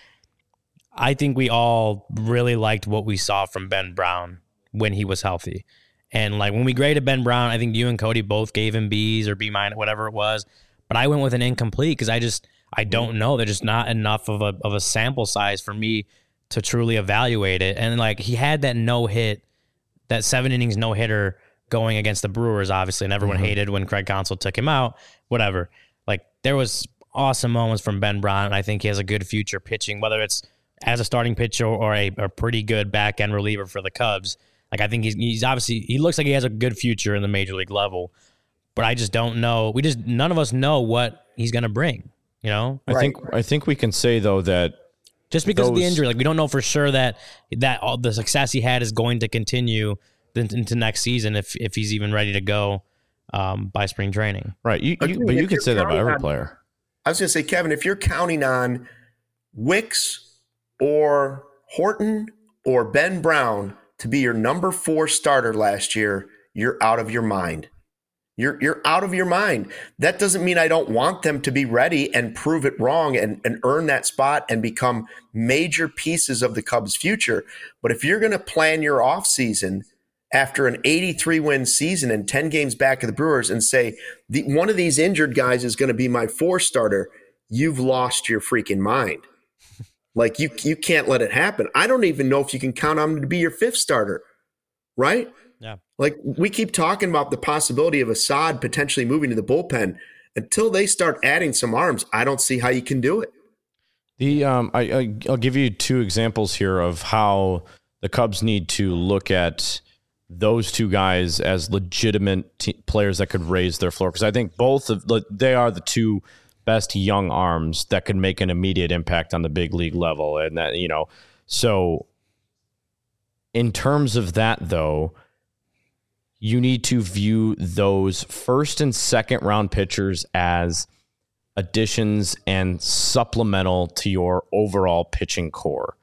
I think we all really liked what we saw from Ben Brown when he was healthy. And like when we graded Ben Brown, I think you and Cody both gave him B's or B minus, whatever it was. But I went with an incomplete because I just, I don't know. There's just not enough of a of a sample size for me to truly evaluate it. And like he had that no hit, that seven innings no hitter going against the Brewers, obviously, and everyone mm-hmm. hated when Craig Counsell took him out, whatever. Like there was awesome moments from Ben Brown, and I think he has a good future pitching, whether it's as a starting pitcher or a, a pretty good back end reliever for the Cubs. Like I think he's he's obviously he looks like he has a good future in the major league level, but I just don't know. We just none of us know what he's going to bring. You know, I right. think I think we can say though that just because those, of the injury, like we don't know for sure that that all the success he had is going to continue into next season if if he's even ready to go. Um, by spring training. Right. You, you, but you could say that about every on, player. I was going to say, Kevin, if you're counting on Wicks or Horton or Ben Brown to be your number four starter last year, you're out of your mind. You're you're out of your mind. That doesn't mean I don't want them to be ready and prove it wrong and, and earn that spot and become major pieces of the Cubs' future. But if you're going to plan your offseason after an eighty-three win season and ten games back of the Brewers and say, the, one of these injured guys is going to be my four starter, you've lost your freaking mind. Like you, you can't let it happen. I don't even know if you can count on him to be your fifth starter, right? Yeah. Like we keep talking about the possibility of Assad potentially moving to the bullpen. Until they start adding some arms, I don't see how you can do it. The um, I, I I'll give you two examples here of how the Cubs need to look at those two guys as legitimate t- players that could raise their floor. Because I think both of the, they are the two best young arms that could make an immediate impact on the big league level. And that, you know, so in terms of that though, you need to view those first and second round pitchers as additions and supplemental to your overall pitching core.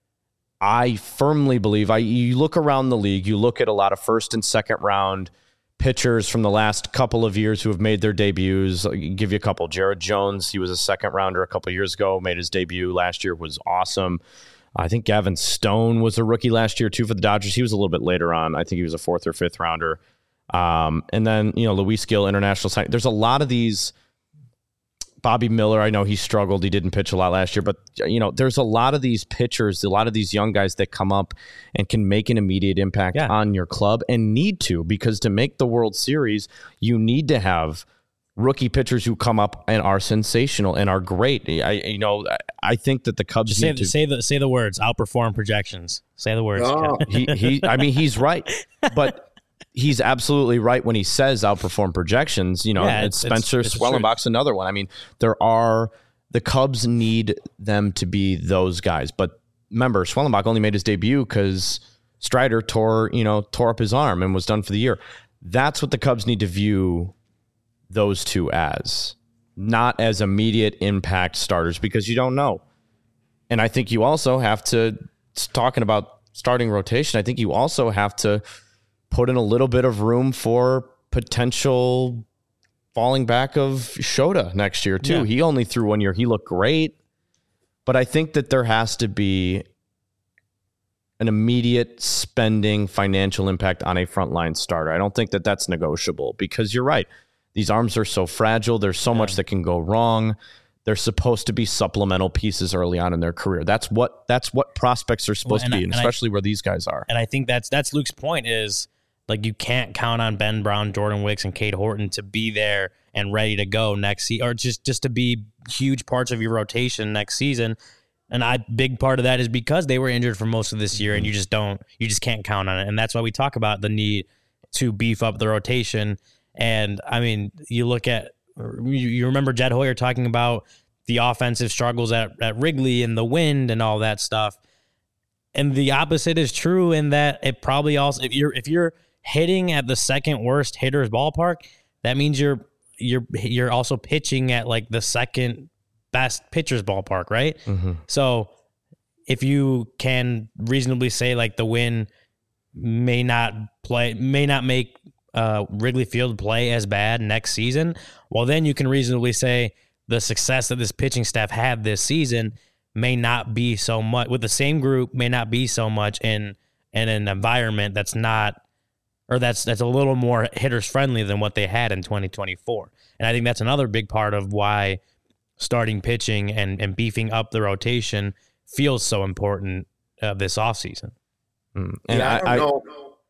I firmly believe, I you look around the league, you look at a lot of first and second round pitchers from the last couple of years who have made their debuts. I'll give you a couple. Jared Jones, he was a second rounder a couple of years ago, made his debut last year, was awesome. I think Gavin Stone was a rookie last year too for the Dodgers. He was a little bit later on. I think he was a fourth or fifth rounder. Um, and then, you know, Luis Gil, international sign. There's a lot of these. Bobby Miller, I know he struggled. He didn't pitch a lot last year, but you know, there's a lot of these pitchers, a lot of these young guys that come up and can make an immediate impact yeah. on your club and need to, because to make the World Series, you need to have rookie pitchers who come up and are sensational and are great. I, you know, I think that the Cubs Just need say, to say the say the words. Outperform projections. Say the words. Oh. he he. I mean, he's right, but. He's absolutely right when he says outperform projections. You know, yeah, it's, it's Spencer it's, it's Swellenbach's another one. I mean, there are the Cubs need them to be those guys. But remember, Swellenbach only made his debut because Strider tore, you know, tore up his arm and was done for the year. That's what the Cubs need to view those two as, not as immediate impact starters, because you don't know. And I think you also have to, talking about starting rotation, I think you also have to put in a little bit of room for potential falling back of Shota next year too. Yeah. He only threw one year. He looked great, but I think that there has to be an immediate spending financial impact on a frontline starter. I don't think that that's negotiable, because you're right. These arms are so fragile. There's so yeah. much that can go wrong. They're supposed to be supplemental pieces early on in their career. That's what that's what prospects are supposed well, to be, I, and especially I, where these guys are. And I think that's that's Luke's point is, like, you can't count on Ben Brown, Jordan Wicks, and Cade Horton to be there and ready to go next season, or just, just to be huge parts of your rotation next season. And I big part of that is because they were injured for most of this year, and you just don't, you just can't count on it. And that's why we talk about the need to beef up the rotation. And I mean, you look at, you, you remember Jed Hoyer talking about the offensive struggles at, at Wrigley and the wind and all that stuff. And the opposite is true in that it probably also, if you're, if you're, hitting at the second worst hitter's ballpark, that means you're you're you're also pitching at like the second best pitcher's ballpark, right? Mm-hmm. So if you can reasonably say like the wind may not play, may not make uh, Wrigley Field play as bad next season, well then you can reasonably say the success that this pitching staff had this season may not be so much with the same group, may not be so much in in an environment that's not. Or that's that's a little more hitters friendly than what they had in twenty twenty-four. And I think that's another big part of why starting pitching and, and beefing up the rotation feels so important uh, this offseason. Mm. And yeah, I, I don't I, know.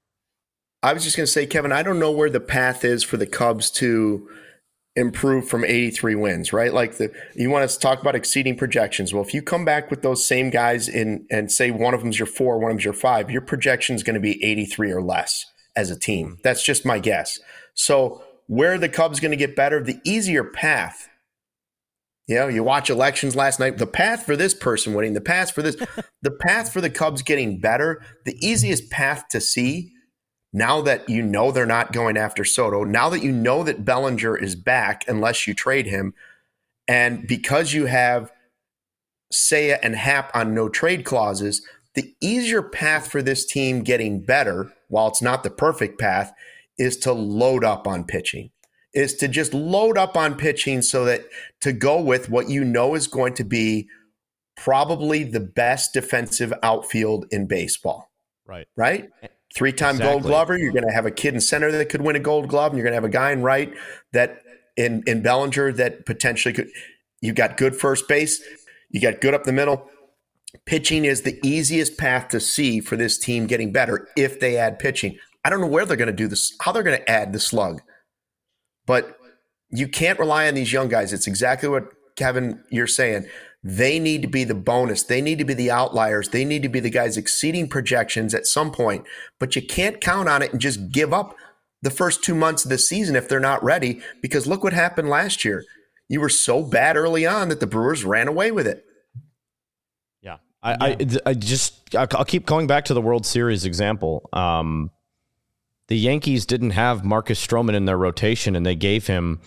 I was just going to say, Kevin, I don't know where the path is for the Cubs to improve from eighty-three wins, right? Like the you want us to talk about exceeding projections. Well, if you come back with those same guys in and say one of them's your four, one of them's your five, your projection is going to be eighty-three or less as a team. That's just my guess. So where are the Cubs going to get better? The easier path. You know, you watch elections last night, the path for this person winning, the path for this, the path for the Cubs getting better, the easiest path to see now that you know they're not going after Soto, now that you know that Bellinger is back unless you trade him, and because you have Seiya and Happ on no trade clauses, the easier path for this team getting better, while it's not the perfect path, is to load up on pitching, is to just load up on pitching so that to go with what you know is going to be probably the best defensive outfield in baseball. Right. Right? Three-time exactly. Gold Glover. You're going to have a kid in center that could win a Gold Glove, and you're going to have a guy in right that in, in Bellinger that potentially could. You got good first base. You got good up the middle. Pitching is the easiest path to see for this team getting better if they add pitching. I don't know where they're going to do this, how they're going to add the slug, but you can't rely on these young guys. It's exactly what, Kevin, you're saying. They need to be the bonus. They need to be the outliers. They need to be the guys exceeding projections at some point, but you can't count on it and just give up the first two months of the season if they're not ready, because look what happened last year. You were so bad early on that the Brewers ran away with it. Yeah. I, I, I just, I'll keep going back to the World Series example. Um, the Yankees didn't have Marcus Stroman in their rotation, and they gave him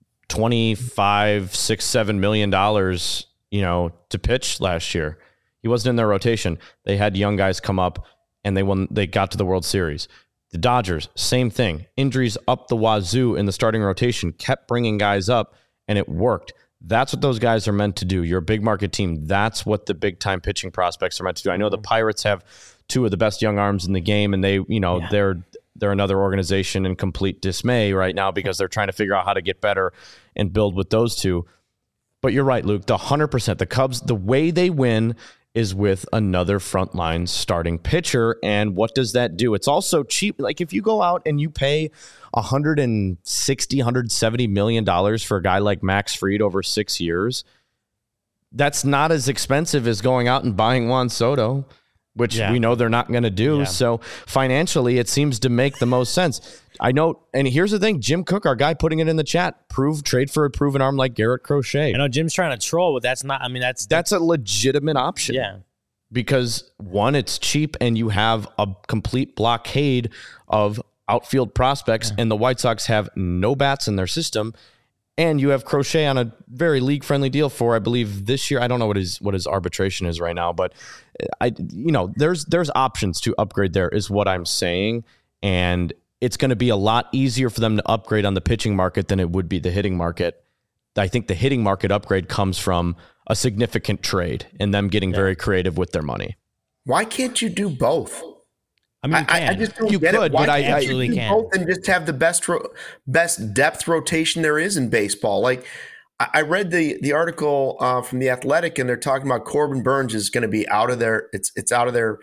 twenty-five, six, seven million dollars, you know, to pitch last year. He wasn't in their rotation. They had young guys come up, and they won. They got to the World Series. The Dodgers, same thing. Injuries up the wazoo in the starting rotation, kept bringing guys up, and it worked. That's what those guys are meant to do. You're a big market team. That's what the big time pitching prospects are meant to do. I know the Pirates have two of the best young arms in the game, and they, you know, yeah. they're they're another organization in complete dismay right now because they're trying to figure out how to get better and build with those two. But you're right, Luke. The one hundred percent, the Cubs, the way they win is with another frontline starting pitcher. And what does that do? It's also cheap. Like if you go out and you pay one hundred sixty, one hundred seventy million dollars for a guy like Max Fried over six years, that's not as expensive as going out and buying Juan Soto, which yeah. we know they're not going to do. Yeah. So financially, it seems to make the most sense. I know, and here's the thing, Jim Cook, our guy putting it in the chat, prove trade for a proven arm like Garrett Crochet. I know Jim's trying to troll, but that's not, I mean, that's... That's a legitimate option. Yeah. Because one, it's cheap and you have a complete blockade of outfield prospects yeah. and the White Sox have no bats in their system. And you have Crochet on a very league-friendly deal for, I believe, this year. I don't know what his what his arbitration is right now, but I, you know, there's there's options to upgrade there, is what I'm saying, and it's going to be a lot easier for them to upgrade on the pitching market than it would be the hitting market. I think the hitting market upgrade comes from a significant trade and them getting yeah. very creative with their money. Why can't you do both? I mean, I, I just don't you get could, it. Why but I can't absolutely you do can. both and just have the best ro- best depth rotation there is in baseball? Like I, I read the the article uh, from the Athletic, and they're talking about Corbin Burns is going to be out of their it's it's out of their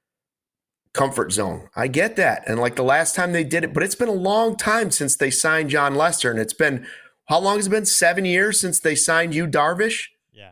comfort zone. I get that, and like the last time they did it, but it's been a long time since they signed John Lester, and it's been how long has it been? Seven years since they signed Yu Darvish. Yeah.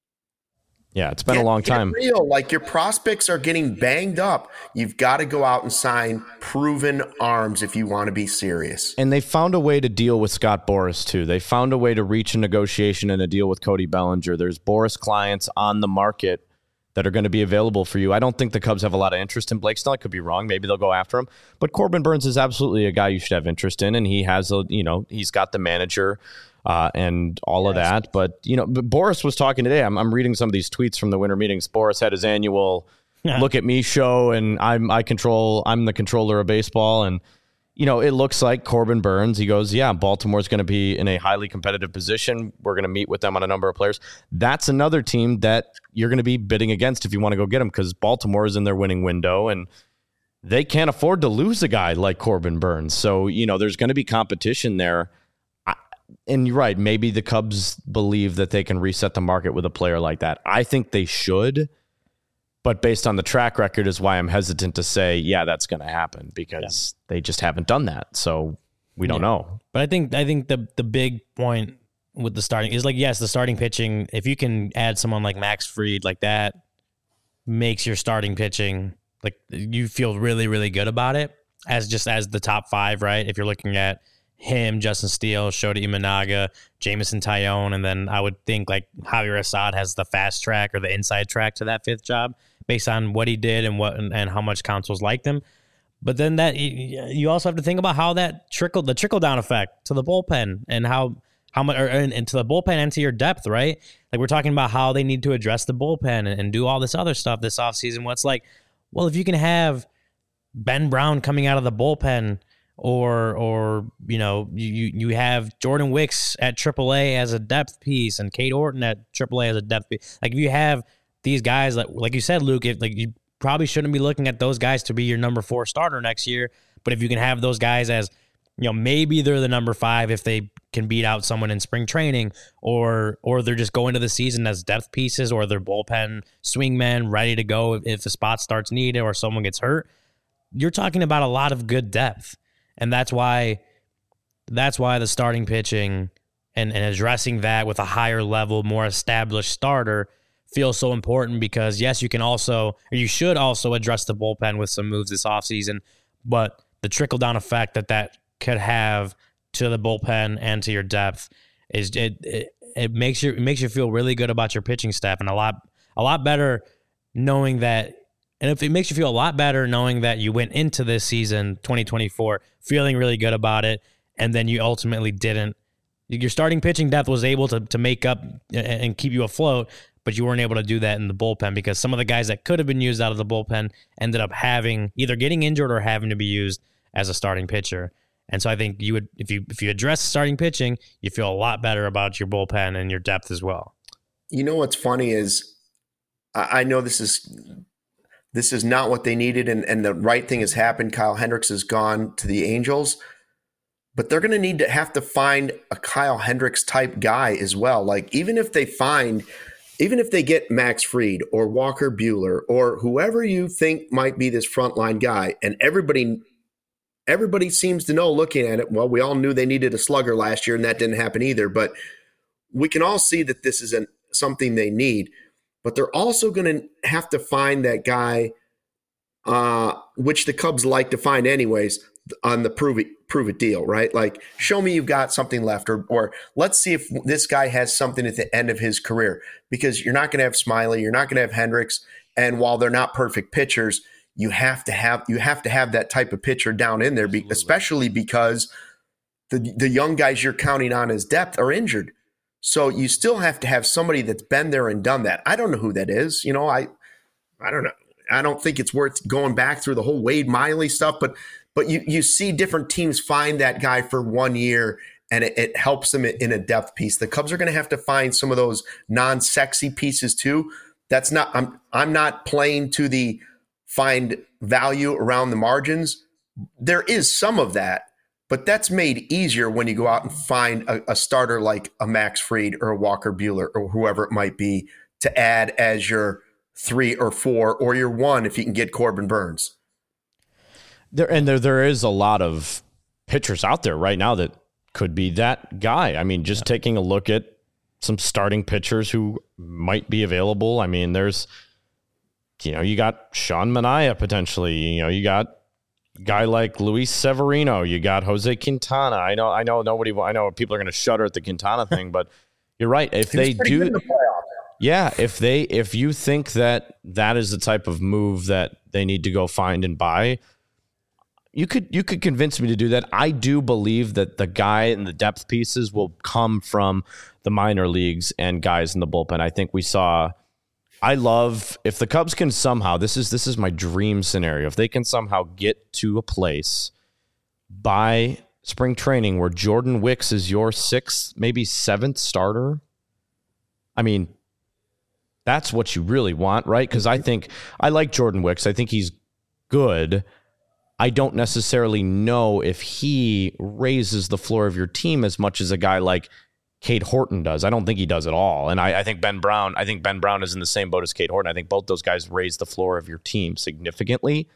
Yeah, it's been Get, a long time. Get real. Like your prospects are getting banged up. You've got to go out and sign proven arms if you want to be serious. And they found a way to deal with Scott Boras, too. They found a way to reach a negotiation and a deal with Cody Bellinger. There's Boras clients on the market that are going to be available for you. I don't think the Cubs have a lot of interest in Blake Snell. I could be wrong. Maybe they'll go after him. But Corbin Burns is absolutely a guy you should have interest in, and he has a, you know, he's got the manager uh, and all of that. But, you know, but Boras was talking today. I'm, I'm reading some of these tweets from the winter meetings. Boras had his annual look at me show, and I'm I control. I'm the controller of baseball, and you know, it looks like Corbin Burns, he goes, yeah, Baltimore's going to be in a highly competitive position. We're going to meet with them on a number of players. That's another team that you're going to be bidding against if you want to go get them, because Baltimore is in their winning window and they can't afford to lose a guy like Corbin Burns. So, you know, there's going to be competition there. I, and you're right. Maybe the Cubs believe that they can reset the market with a player like that. I think they should. But based on the track record is why I'm hesitant to say, yeah, that's going to happen, because yeah. they just haven't done that. So we don't yeah. know. But I think I think the the big point with the starting is like, yes, the starting pitching, if you can add someone like Max Fried, like that makes your starting pitching, like you feel really, really good about it as just as the top five, right? If you're looking at him, Justin Steele, Shota Imanaga, Jameson Taillon, and then I would think like Javier Assad has the fast track or the inside track to that fifth job, based on what he did and what and, and how much councils liked him. But then that you also have to think about how that trickle the trickle down effect to the bullpen and how how much or, and, and to the bullpen and to your depth, right? Like we're talking about how they need to address the bullpen and, and do all this other stuff this offseason. What's like, well, if you can have Ben Brown coming out of the bullpen, or or you know you you have Jordan Wicks at triple A as a depth piece and Kate Orton at triple A as a depth piece. Like if you have these guys, like like you said, Luke, if, like you probably shouldn't be looking at those guys to be your number four starter next year. But if you can have those guys as, you know, maybe they're the number five if they can beat out someone in spring training, or or they're just going to the season as depth pieces, or they're bullpen swingmen ready to go if, if the spot starts needed or someone gets hurt. You're talking about a lot of good depth, and that's why that's why the starting pitching and, and addressing that with a higher level, more established starter feels so important, because yes, you can also, or you should also address the bullpen with some moves this offseason, but the trickle down effect that that could have to the bullpen and to your depth is it, it, it makes you, it makes you feel really good about your pitching staff, and a lot, a lot better knowing that. And if it makes you feel a lot better knowing that you went into this season, twenty twenty-four, feeling really good about it, and then you ultimately didn't, your starting pitching depth was able to, to make up and keep you afloat, but you weren't able to do that in the bullpen, because some of the guys that could have been used out of the bullpen ended up having either getting injured or having to be used as a starting pitcher. And so I think you would, if you if you address starting pitching, you feel a lot better about your bullpen and your depth as well. You know what's funny is I, I know this is this is not what they needed, and, and the right thing has happened. Kyle Hendricks has gone to the Angels, but they're going to need to have to find a Kyle Hendricks type guy as well. Like even if they find, even if they get Max Fried or Walker Buehler or whoever you think might be this frontline guy, and everybody. Everybody seems to know looking at it, well, we all knew they needed a slugger last year, and that didn't happen either. But we can all see that this isn't something they need. But they're also going to have to find that guy, uh, which the Cubs like to find anyways, on the prove it, prove it deal, right? Like, show me you've got something left, or, or let's see if this guy has something at the end of his career. Because you're not going to have Smiley, you're not going to have Hendricks, and while they're not perfect pitchers, You have to have you have to have that type of pitcher down in there, be, especially because the the young guys you're counting on as depth are injured. So you still have to have somebody that's been there and done that. I don't know who that is. You know, I I don't know. I don't think it's worth going back through the whole Wade Miley stuff, but but you you see different teams find that guy for one year and it, it helps them in a depth piece. The Cubs are going to have to find some of those non-sexy pieces too. That's not I'm I'm not playing to the find value around the margins. There is some of that, but that's made easier when you go out and find a, a starter like a Max Fried or a Walker Buehler or whoever it might be to add as your three or four or your one if you can get Corbin Burns. There and there there is a lot of pitchers out there right now that could be that guy. I mean, just yeah. taking a look at some starting pitchers who might be available. I mean, there's You know, you got Sean Manaea potentially. You know, you got a guy like Luis Severino. You got Jose Quintana. I know, I know, nobody. I know people are going to shudder at the Quintana thing, but you're right. If they do, the yeah, if they, if you think that that is the type of move that they need to go find and buy, you could, you could convince me to do that. I do believe that the guy and the depth pieces will come from the minor leagues and guys in the bullpen. I think we saw. I love if the Cubs can somehow, this is this is my dream scenario, if they can somehow get to a place by spring training where Jordan Wicks is your sixth, maybe seventh starter. I mean, that's what you really want, right? Because I think, I like Jordan Wicks. I think he's good. I don't necessarily know if he raises the floor of your team as much as a guy like Cade Horton does. I don't think he does at all. And I, I think Ben Brown, I think Ben Brown is in the same boat as Cade Horton. I think both those guys raise the floor of your team significantly.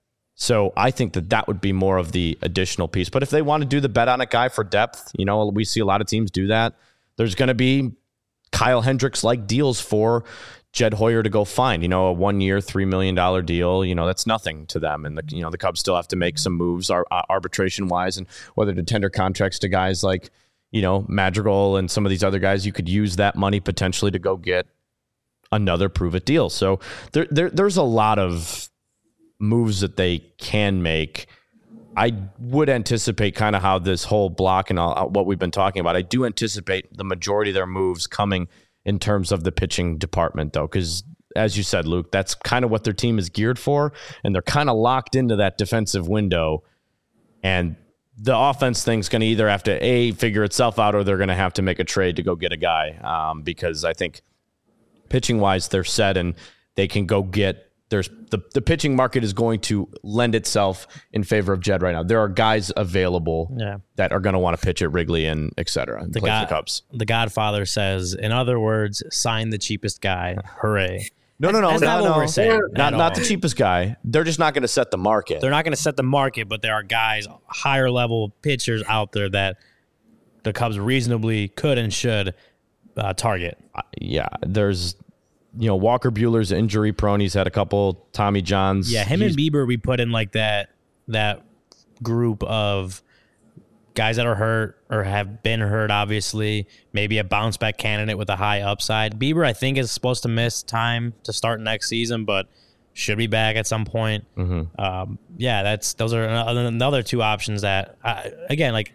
So I think that that would be more of the additional piece. But if they want to do the bet on a guy for depth, you know, we see a lot of teams do that. There's going to be Kyle Hendricks-like deals for Jed Hoyer to go find, you know, a one-year, three million dollars deal. You know, that's nothing to them. And, the, you know, the Cubs still have to make some moves ar- arbitration-wise, and whether to tender contracts to guys like, you know, Madrigal and some of these other guys. You could use that money potentially to go get another prove-it deal. So there, there, there's a lot of moves that they can make. I would anticipate kind of how this whole block and all, what we've been talking about, I do anticipate the majority of their moves coming in terms of the pitching department, though, because as you said, Luke, that's kind of what their team is geared for, and they're kind of locked into that defensive window. And the offense thing's going to either have to, A, figure itself out, or they're going to have to make a trade to go get a guy, um, because I think pitching-wise, they're set, and they can go get There's the, the pitching market is going to lend itself in favor of Jed right now. There are guys available yeah. that are going to want to pitch at Wrigley and et cetera. And the play God, for the Cubs. The Godfather says, in other words, sign the cheapest guy. Hooray. No, no, no, That's no, not no. what we're saying. Not, not the cheapest guy. They're just not going to set the market. They're not going to set the market, but there are guys, higher level pitchers out there that the Cubs reasonably could and should uh, target. Uh, yeah, there's... You know, Walker Buehler's injury prone. He's had a couple Tommy Johns. Yeah, him He's, and Bieber, we put in like that that group of guys that are hurt or have been hurt, obviously. Maybe a bounce back candidate with a high upside. Bieber, I think, is supposed to miss time to start next season, but should be back at some point. Mm-hmm. Um, yeah, that's those are another two options that, I, again, like,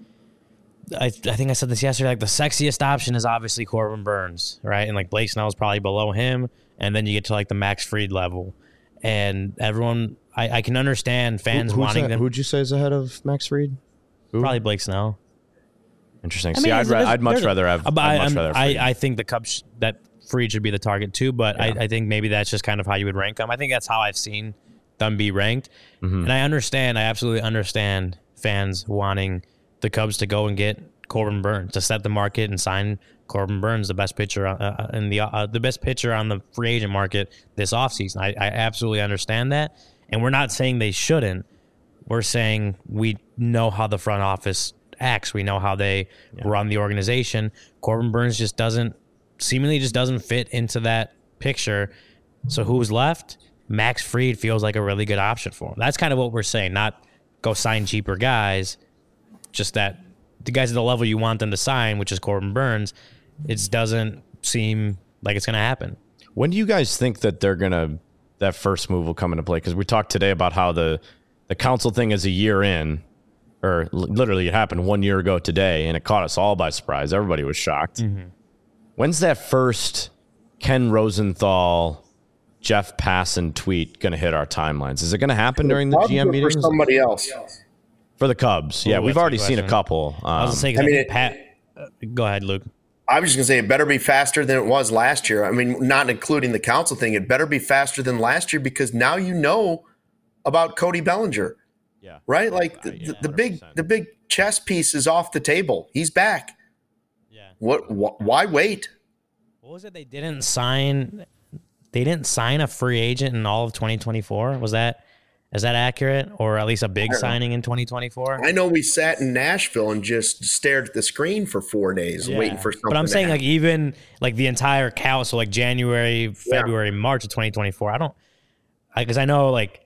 I, I think I said this yesterday, like the sexiest option is obviously Corbin Burns, right? And like Blake Snell is probably below him. And then you get to like the Max Fried level. And everyone, I, I can understand fans Who, wanting that? them. Who'd you say is ahead of Max Fried? Who? Probably Blake Snell. Interesting. I See, mean, I'd, there's- ra- I'd much there's- rather have. But I'd I, much I'm- rather. Have I, Fried. I think the Cubs that Fried should be the target too. But I, Yeah. I think maybe that's just kind of how you would rank them. I think that's how I've seen them be ranked. Mm-hmm. And I understand. I absolutely understand fans wanting the Cubs to go and get Corbin Burns to set the market and sign Corbin Burns, the best pitcher uh, in the uh, the best pitcher on the free agent market this offseason. I, I absolutely understand that, and we're not saying they shouldn't. We're saying we know how the front office acts. We know how they yeah. run the organization. Corbin Burns just doesn't seemingly just doesn't fit into that picture. So who's left? Max Fried feels like a really good option for him. That's kind of what we're saying. Not go sign cheaper guys, just that the guys at the level you want them to sign, which is Corbin Burns, it doesn't seem like it's going to happen. When do you guys think that they're going to, that first move will come into play? Because we talked today about how the, the council thing is a year in, or literally it happened one year ago today, and it caught us all by surprise. Everybody was shocked. Mm-hmm. When's that first Ken Rosenthal, Jeff Passan tweet going to hit our timelines? Is it going to happen during the G M meetings? For somebody else. For the Cubs. Yeah, Ooh, we've already seen a couple. Um, I was saying, I mean, it, Pat, uh, go ahead, Luke. I was just going to say it better be faster than it was last year. I mean, not including the council thing. It better be faster than last year because now you know about Cody Bellinger. Yeah. Right? Like the, yeah, the, the big the big chess piece is off the table. He's back. Yeah. What wh- why wait? What was it they didn't sign they didn't sign a free agent in all of twenty twenty-four? Was that Is that accurate, or at least a big signing in twenty twenty-four? I know we sat in Nashville and just stared at the screen for four days yeah. waiting for something. But I'm to saying, happen. like, even like the entire count, so like January, February, yeah. March of twenty twenty-four. I don't, because I, I know like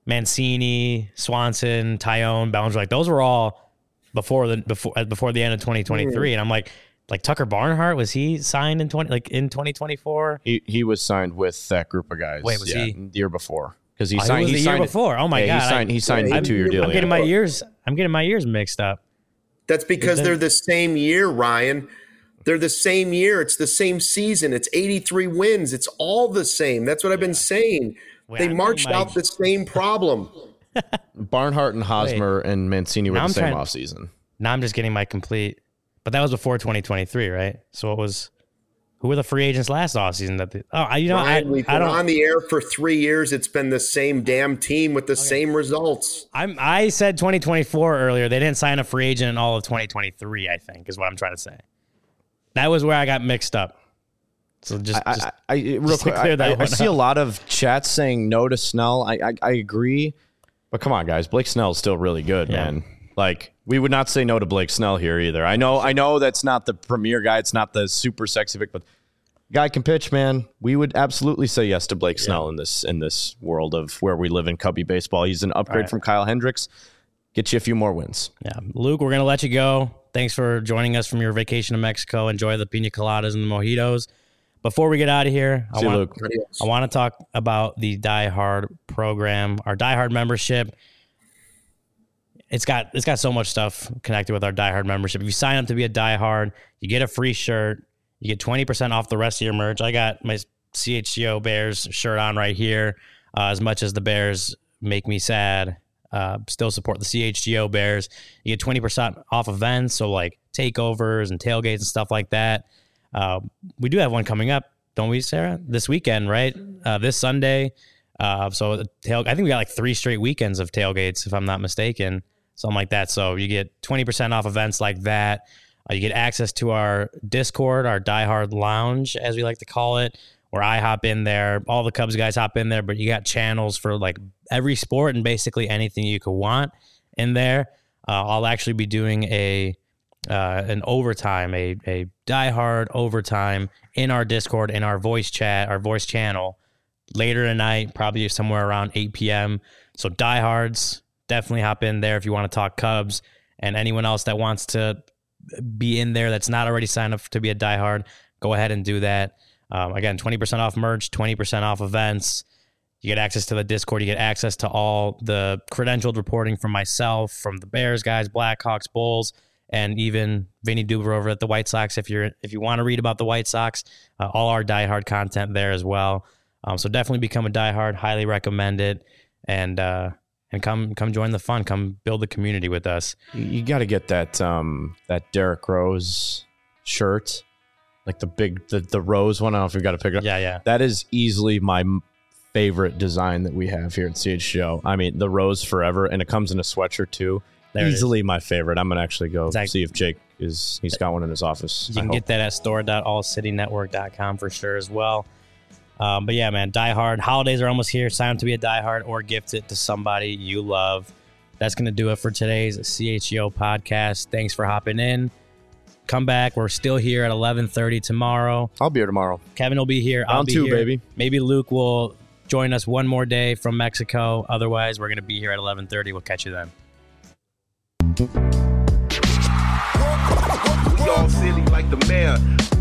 Mancini, Swanson, Tyone, Bellinger, like those were all before the before before the end of twenty twenty-three, mm. and I'm like, like Tucker Barnhart, was he signed in twenty like in twenty twenty-four? He he was signed with that group of guys. Wait, was yeah, he the year before? Because he oh, signed he, he the signed year it, before. Oh my yeah, god, he signed he signed I, a two year deal. I'm getting yeah. my years. I'm getting my years mixed up. That's because they're the same year, Ryan. They're the same year. It's the same season. It's eighty-three wins. It's all the same. That's what I've been saying. Wait, they I'm marched my... out the same problem. Barnhart and Hosmer Wait. and Mancini were now the I'm same trying... offseason. Now I'm just getting my complete. But that was before twenty twenty-three, right? So it was. Who were the free agents last offseason? That the, oh, you know, Ryan, I, we've I been don't, on the air for three years. It's been the same damn team with the okay. same results. I'm. I said twenty twenty-four earlier. They didn't sign a free agent in all of twenty twenty-three. I think is what I'm trying to say. That was where I got mixed up. So just, I, just, I, I, real just quick, I, I, I see a lot of chats saying no to Snell. I, I, I agree, but come on, guys. Blake Snell is still really good, yeah. man. Like we would not say no to Blake Snell here either. I know, I know that's not the premier guy. It's not the super sexy pick, but. Guy can pitch, man. We would absolutely say yes to Blake Snell yeah. in this in this world of where we live in Cubby baseball. He's an upgrade right. from Kyle Hendricks. Get you a few more wins. Yeah, Luke, we're gonna let you go. Thanks for joining us from your vacation to Mexico. Enjoy the pina coladas and the mojitos. Before we get out of here, See I want Luke. I want to talk about the Die Hard program, our Die Hard membership. It's got it's got so much stuff connected with our Die Hard membership. If you sign up to be a Die Hard, you get a free shirt. You get twenty percent off the rest of your merch. I got my C H G O Bears shirt on right here. Uh, as much as the Bears make me sad, uh, still support the C H G O Bears. You get twenty percent off events, so like takeovers and tailgates and stuff like that. Uh, we do have one coming up, don't we, Sarah? This weekend, right? Uh, this Sunday. Uh, so the tail, I think we got like three straight weekends of tailgates, if I'm not mistaken, something like that. So you get twenty percent off events like that. Uh, you get access to our Discord, our Die Hard Lounge, as we like to call it, where I hop in there. All the Cubs guys hop in there, but you got channels for like every sport and basically anything you could want in there. Uh, I'll actually be doing a uh, an overtime, a a Die Hard overtime in our Discord, in our voice chat, our voice channel later tonight, probably somewhere around eight p.m. So Die Hards, definitely hop in there if you want to talk Cubs, and anyone else that wants to be in there that's not already signed up to be a diehard, go ahead and do that. Um, again, twenty percent off merch, twenty percent off events. You get access to the Discord. You get access to all the credentialed reporting from myself, from the Bears guys, Blackhawks, Bulls, and even Vinny Duber over at the White Sox. If you're if you want to read about the White Sox, uh, all our diehard content there as well. Um, so definitely become a diehard. Highly recommend it. And uh, and come come join the fun. Come build the community with us. You, you got to get that um, that Derrick Rose shirt, like the big the the rose one. I don't know if you got to pick it up. Yeah, yeah. That is easily my favorite design that we have here at C H G O. I mean, the rose forever, and it comes in a sweatshirt too. There easily my favorite. I'm gonna actually go exactly. see if Jake is. He's got one in his office. You can get that at store dot all city network dot com for sure as well. Um, but yeah, man, Die Hard. Holidays are almost here. Sign up to be a Die Hard or gift it to somebody you love. That's gonna do it for today's C H G O podcast. Thanks for hopping in. Come back. We're still here at eleven thirty tomorrow. I'll be here tomorrow. Kevin will be here. I'll Round be two, here. baby. Maybe Luke will join us one more day from Mexico. Otherwise, we're gonna be here at eleven thirty. We'll catch you then. We all silly like the mayor.